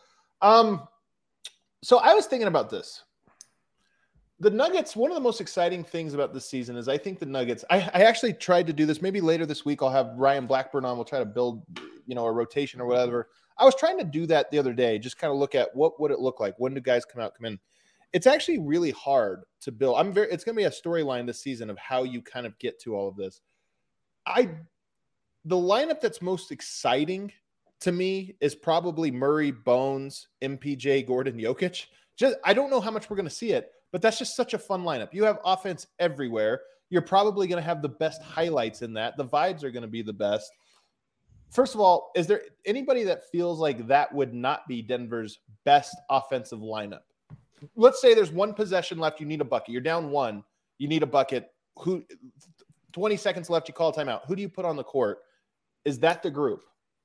So I was thinking about this. The Nuggets, one of the most exciting things about this season is I think the Nuggets, I actually tried to do this. Maybe later this week I'll have Ryan Blackburn on. We'll try to build, a rotation or whatever. I was trying to do that the other day, just kind of look at what would it look like? When do guys come in? It's actually really hard to build. It's going to be a storyline this season of how you kind of get to all of this. The lineup that's most exciting to me is probably Murray, Bones, MPJ, Gordon, Jokic. I don't know how much we're going to see it, but that's just such a fun lineup. You have offense everywhere. You're probably going to have the best highlights in that. The vibes are going to be the best. First of all, is there anybody that feels like that would not be Denver's best offensive lineup? Let's say there's one possession left. You need a bucket. You're down one. You need a bucket. 20 seconds left. You call a timeout. Who do you put on the court? Is that the group?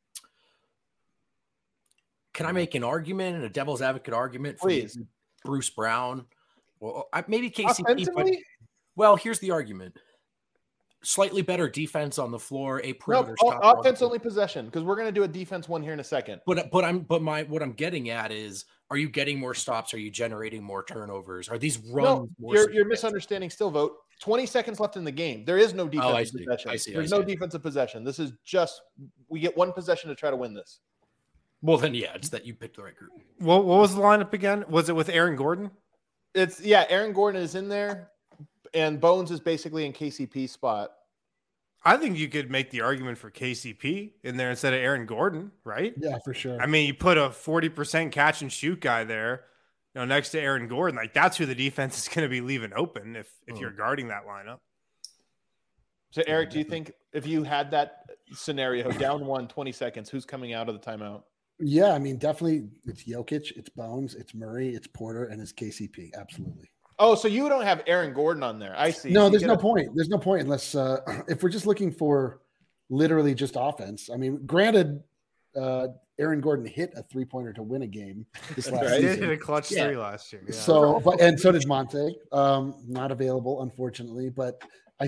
Can I make an argument and a devil's advocate argument for Bruce Brown? Well, maybe KCP. But, here's the argument. Slightly better defense on the floor, a perimeter stopper. Offense only possession, because we're going to do a defense one here in a second. What I'm getting at is, are you getting more stops? Are you generating more turnovers? Are these runs? No, you're misunderstanding still, Vogt. 20 seconds left in the game. There is no defensive possession. There's no defensive possession. This is just, we get one possession to try to win this. Well, then, it's that you picked the right group. What was the lineup again? Was it with Aaron Gordon? Aaron Gordon is in there, and Bones is basically in KCP's spot. I think you could make the argument for KCP in there instead of Aaron Gordon, right? Yeah, for sure. I mean, you put a 40% catch and shoot guy there, next to Aaron Gordon. Like, that's who the defense is going to be leaving open if you're guarding that lineup. So, Eric, do you think if you had that scenario, down 20 seconds, who's coming out of the timeout? Yeah, I mean, definitely it's Jokic, it's Bones, it's Murray, it's Porter, and it's KCP. Absolutely. Oh, so you don't have Aaron Gordon on there. I see. No, there's no point. There's no point unless if we're just looking for literally just offense. I mean, granted, Aaron Gordon hit a 3-pointer to win a game this last season. He did hit a clutch 3 last year. Yeah. So, and so did Monte. Not available, unfortunately, but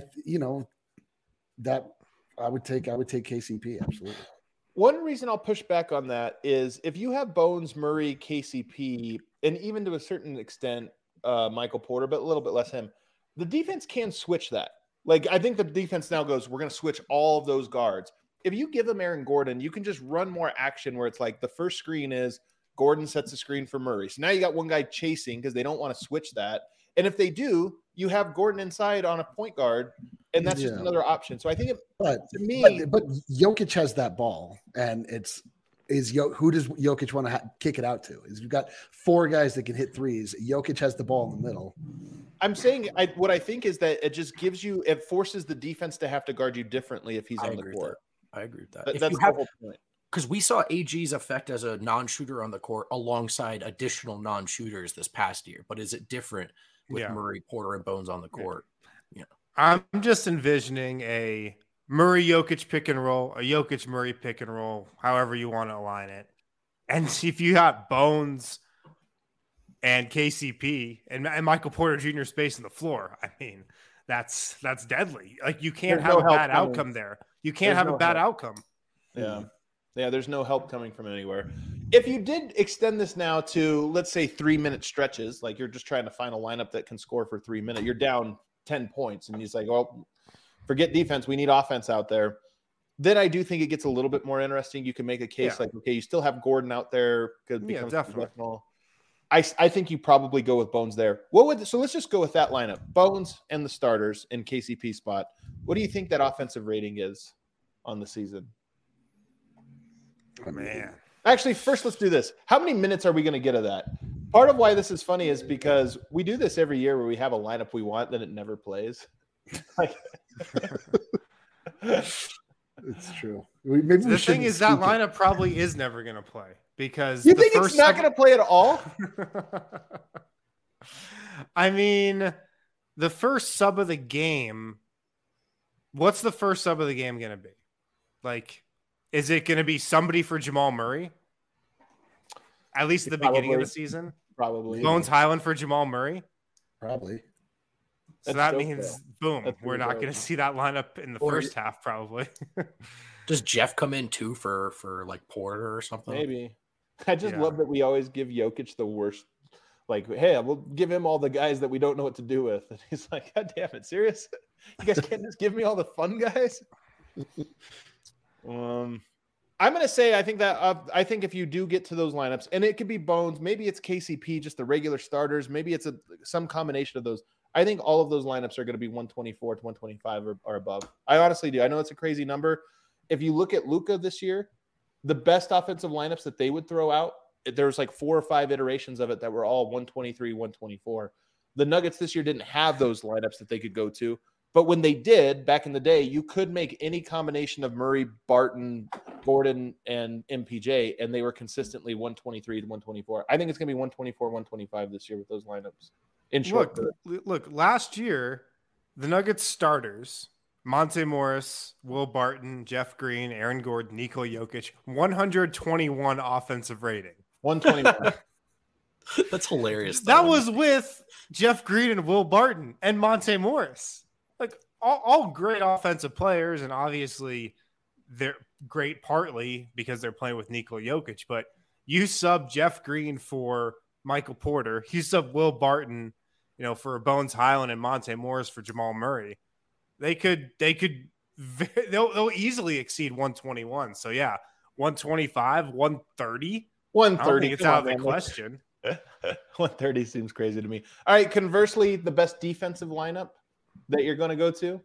that I would take KCP, absolutely. One reason I'll push back on that is if you have Bones, Murray, KCP, and even to a certain extent, Michael Porter, but a little bit less him, the defense can switch that. Like, I think the defense now goes, we're going to switch all of those guards. If you give them Aaron Gordon, you can just run more action where it's like the first screen is Gordon sets a screen for Murray. So now you got one guy chasing because they don't want to switch that. And if they do, you have Gordon inside on a point guard, and that's just another option. So I think but Jokic has that ball, and who does Jokic want to kick it out to? You've got 4 guys that can hit threes. Jokic has the ball in the middle. I'm saying what I think is that it just it forces the defense to have to guard you differently if he's on the court. I agree with that. That's the whole point. Because we saw AG's effect as a non-shooter on the court alongside additional non-shooters this past year. But is it different with Murray, Porter, and Bones on the court? Yeah. I'm just envisioning a Murray-Jokic pick and roll, a Jokic-Murray pick and roll, however you want to align it. And if you got Bones and KCP and Michael Porter Jr. spacing the floor, I mean, that's deadly. Like, you can't have a bad outcome there. You can't have a bad outcome. Yeah. Yeah, there's no help coming from anywhere. If you did extend this now to, let's say, 3-minute stretches, like you're just trying to find a lineup that can score for 3 minutes, you're down 10 points, and he's like, well, forget defense, we need offense out there. Then I do think it gets a little bit more interesting. You can make a case like, okay, you still have Gordon out there. Could become definitely. I think you probably go with Bones there. So let's just go with that lineup. Bones and the starters in KCP spot. What do you think that offensive rating is on the season? Oh, man. Actually, first, let's do this. How many minutes are we going to get of that? Part of why this is funny is because we do this every year where we have a lineup we want, then it never plays. It's true. The thing is, that lineup probably is never going to play because you think it's not going to play at all? I mean, the first sub of the game. What's the first sub of the game going to be? Like, is it going to be somebody for Jamal Murray? At least at the beginning of the season? Probably. Bones Highland for Jamal Murray? Probably. So that means, boom, we're not going to see that lineup in the first half, probably. Does Jeff come in too for like Porter or something? Maybe. I just love that we always give Jokic the worst. Like, hey, we'll give him all the guys that we don't know what to do with. And he's like, God damn it, serious? You guys can't just give me all the fun guys? I'm going to say I think if you do get to those lineups, and it could be Bones, maybe it's KCP, just the regular starters, maybe it's some combination of those. I think all of those lineups are going to be 124 to 125 or above. I honestly do. I know it's a crazy number. If you look at Luka this year, the best offensive lineups that they would throw out, there was like 4 or 5 iterations of it that were all 123, 124. The Nuggets this year didn't have those lineups that they could go to. But when they did, back in the day, you could make any combination of Murray, Barton, Gordon, and MPJ, and they were consistently 123 to 124. I think it's going to be 124, 125 this year with those lineups. In short, look, last year, the Nuggets starters, Monte Morris, Will Barton, Jeff Green, Aaron Gordon, Nikola Jokic, 121 offensive rating. 121. That's hilarious. That was with Jeff Green and Will Barton and Monte Morris. Like, all great offensive players, and obviously they're great partly because they're playing with Nikola Jokic, but you sub Jeff Green for Michael Porter, you sub Will Barton, for Bones Highland and Monte Morris for Jamal Murray. They'll easily exceed 121. So yeah, 125, 130. 130. It's out of the question. 130 seems crazy to me. All right. Conversely, the best defensive lineup that you're going to go to?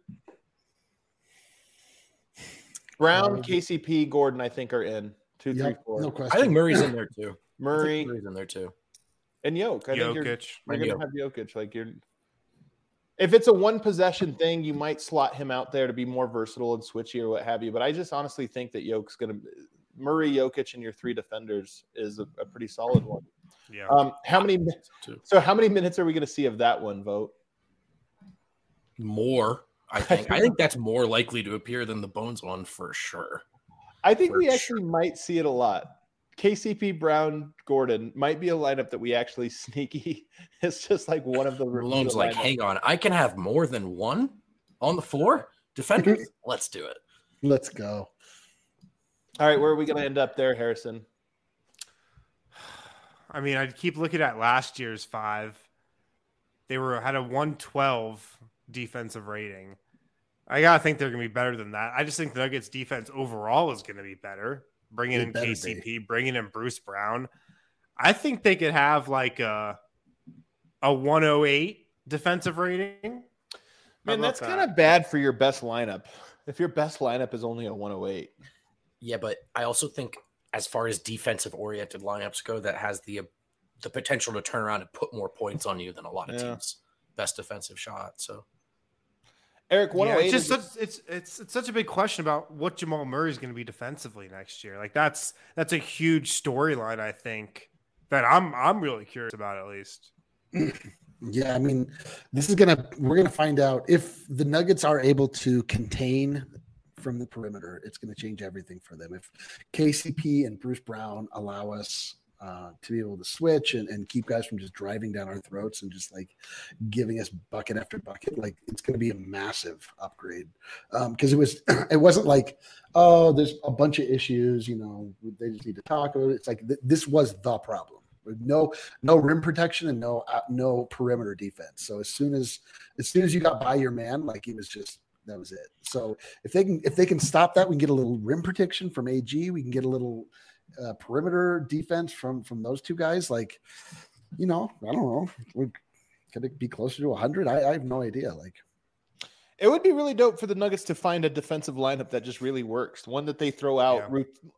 Brown, KCP, Gordon, I think are in 2, 3, 4. No question. I think Murray's in there too. Murray's in there too. And Jokic. I think you're going to have Jokic. Like if it's a one possession thing, you might slot him out there to be more versatile and switchy or what have you. But I just honestly think that Murray, Jokic, and your 3 defenders is a pretty solid one. Yeah. How many minutes are we going to see of that one, Vote? More, I think. I think that's more likely to appear than the Bones one for sure. I think we actually might see it a lot. KCP, Brown, Gordon might be a lineup that we actually sneaky. It's just like one of the Malone's like, hang on, I can have more than one on the floor? Defenders? Let's do it. Let's go. All right, where are we going to end up there, Harrison? I mean, I'd keep looking at last year's 5. They had a 112 defensive rating. I gotta think they're going to be better than that. I just think the Nuggets defense overall is going to be better. Bringing in KCP, bringing in Bruce Brown. I think they could have like a 108 defensive rating. Man, that's kind of bad for your best lineup. If your best lineup is only a 108. Yeah, but I also think as far as defensive-oriented lineups go, that has the potential to turn around and put more points on you than a lot of teams' best defensive shot. So, Eric, 108. It's such a big question about what Jamal Murray is going to be defensively next year. Like that's a huge storyline. I think that I'm really curious about at least. Yeah, I mean, we're gonna find out if the Nuggets are able to contain from the perimeter, it's going to change everything for them. If KCP and Bruce Brown allow us to be able to switch and keep guys from just driving down our throats and just like giving us bucket after bucket, like it's going to be a massive upgrade. Because it wasn't like, oh, there's a bunch of issues, they just need to talk about it. It's like this was the problem. No rim protection and no perimeter defense. So as soon as you got by your man, like that was it. So if they can stop that, we can get a little rim protection from AG. We can get a little perimeter defense from those two guys. Like, I don't know. Could it be closer to 100? I have no idea. Like, it would be really dope for the Nuggets to find a defensive lineup that just really works. One that they throw out,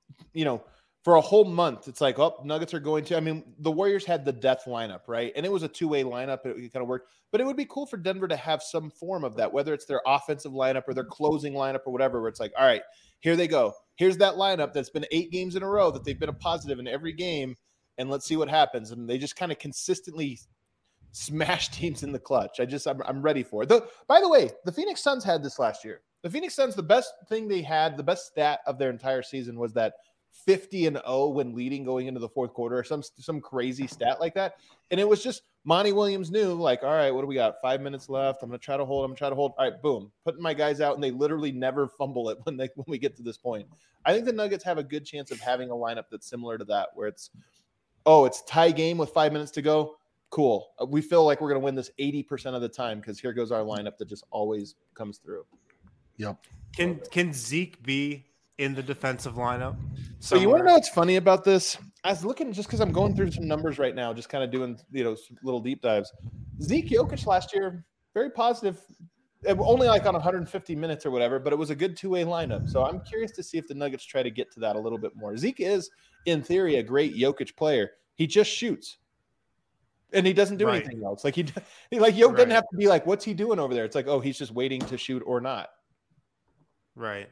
for a whole month. It's like, Nuggets are going to. I mean, the Warriors had the death lineup, right? And it was a two-way lineup. It kind of worked. But it would be cool for Denver to have some form of that, whether it's their offensive lineup or their closing lineup or whatever, where it's like, all right, here they go. Here's that lineup that's been 8 games in a row that they've been a positive in every game, and let's see what happens. And they just kind of consistently smash teams in the clutch. I'm ready for it. By the way, the Phoenix Suns had this last year. The Phoenix Suns, the best thing they had, the best stat of their entire season was that 50-0 when leading going into the fourth quarter, or some crazy stat like that. And it was just Monty Williams knew, like, all right, what do we got? 5 minutes left. I'm going to try to hold. All right, boom. Putting my guys out, and they literally never fumble it when we get to this point. I think the Nuggets have a good chance of having a lineup that's similar to that, where it's tie game with 5 minutes to go. Cool. We feel like we're going to win this 80% of the time because here goes our lineup that just always comes through. Yep. Can Zeke be in the defensive lineup? So you want to know what's funny about this? I was looking just because I'm going through some numbers right now, just kind of doing some little deep dives. Zeke Jokic last year, very positive, only like on 150 minutes or whatever, but it was a good two-way lineup. So I'm curious to see if the Nuggets try to get to that a little bit more. Zeke is, in theory, a great Jokic player. He just shoots, and he doesn't do anything else. Like Jokic doesn't have to be like, what's he doing over there? It's like, oh, he's just waiting to shoot or not. Right.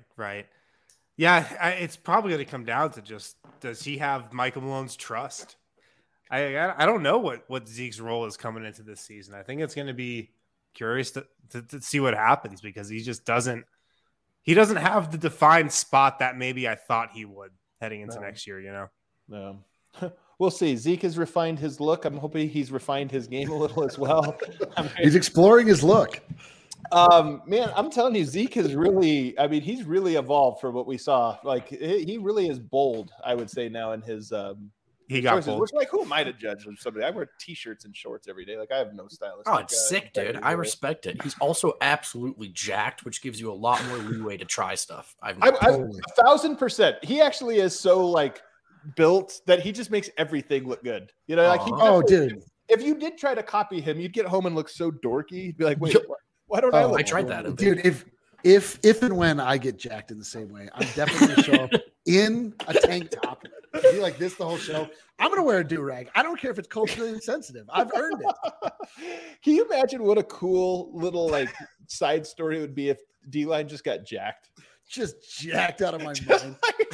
Yeah, it's probably going to come down to just, does he have Michael Malone's trust? I don't know what Zeke's role is coming into this season. I think it's going to be curious to see what happens, because he just doesn't have the defined spot that maybe I thought he would heading into next year, No. We'll see. Zeke has refined his look. I'm hoping he's refined his game a little as well. He's exploring his look. Man, I'm telling you, Zeke has really, he's really evolved from what we saw. Like, he really is bold, I would say, now in his he got choices, bold. which, like, who am I to judge somebody? I wear t-shirts and shorts every day. Like, I have no stylist. Oh, it's sick, dude. I respect it. He's also absolutely jacked, which gives you a lot more leeway to try stuff. I'm 1,000%. He actually is so, like, built that he just makes everything look good. Dude. If you did try to copy him, you'd get home and look so dorky. You'd be like, wait, why don't I look? I tried that, dude. If and when I get jacked in the same way, I'm definitely going to show up in a tank top, be like this the whole show. I'm going to wear a do-rag. I don't care if it's culturally sensitive. I've earned it. Can you imagine what a cool little like side story it would be if D-Line just got jacked? Just jacked out of my mind.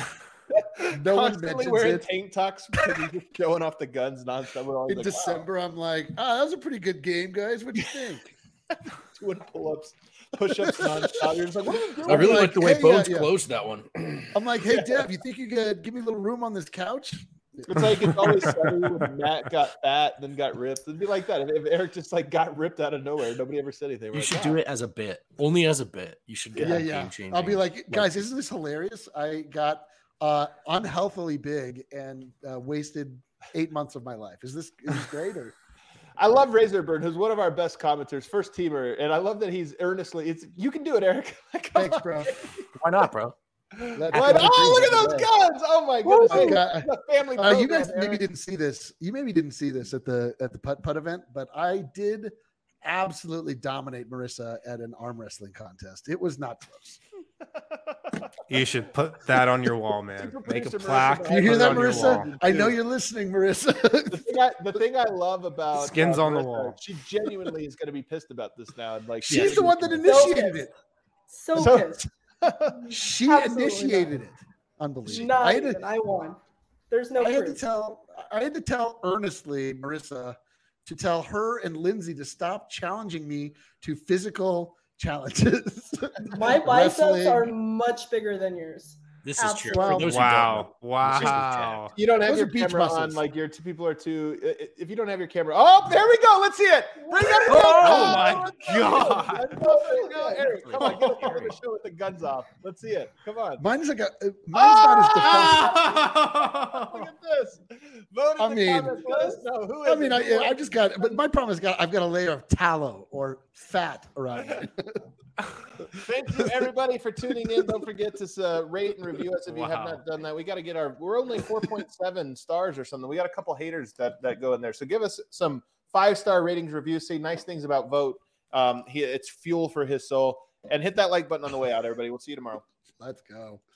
No one mentions wearing it. Tank tops because he's just showing off the guns nonstop. In December, wow. I'm like, that was a pretty good game, guys. What do you think? Doing pull-ups, push-ups nonstop. You're just like, what are you doing? I really like the way Bones closed that one. I'm like, hey, Deb, you think you could give me a little room on this couch? It's like it's always funny when Matt got fat, then got ripped. It'd be like that. If Eric just like got ripped out of nowhere, nobody ever said anything. You should do it as a bit, only as a bit. You should get game changing. I'll be like, guys, isn't this hilarious? I got unhealthily big and wasted 8 months of my life. Is this great? Or I love Razorburn, who's one of our best commenters, first teamer, and I love that he's earnestly. You can do it, Eric. Thanks, bro. Why not, bro? Look at those guns! Oh my goodness! Family. You guys maybe didn't see this. You maybe didn't see this at the putt event, but I did absolutely dominate Marissa at an arm wrestling contest. It was not close. You should put that on your wall, man. Make a plaque. You hear that, Marissa? I know you're listening, Marissa. the thing I love about skins on Marissa, the wall. She genuinely is going to be pissed about this now. Like she's the one that initiated it. So pissed. She initiated it. Unbelievable. I won. There's no proof. I had to tell earnestly, Marissa, to tell her and Lindsay to stop challenging me to physical challenges. My biceps Wrestling. are much bigger than yours. This is true. Absolutely. For those who don't know, Wow. You don't have Those your are beach camera on, muscles. like your two people are too. If you don't have your camera, oh, there we go. Let's see it. Bring up the Oh my God. There you go, Eric. Come on, get up on the show with the guns off. Let's see it. Come on. Mine's like mine's not as defensive. Look at this. Vote in the comments. Let us know who is it. I just got, but my problem is I've got a layer of tallow or fat around me. Thank you, everybody, for tuning in. Don't forget to rate and review us if you have not done that. We got to get we're only 4.7 stars or something. We got a couple haters that go in there. So give us some 5-star ratings, reviews, say nice things about Vote. It's fuel for his soul. And hit that like button on the way out, everybody. We'll see you tomorrow. Let's go.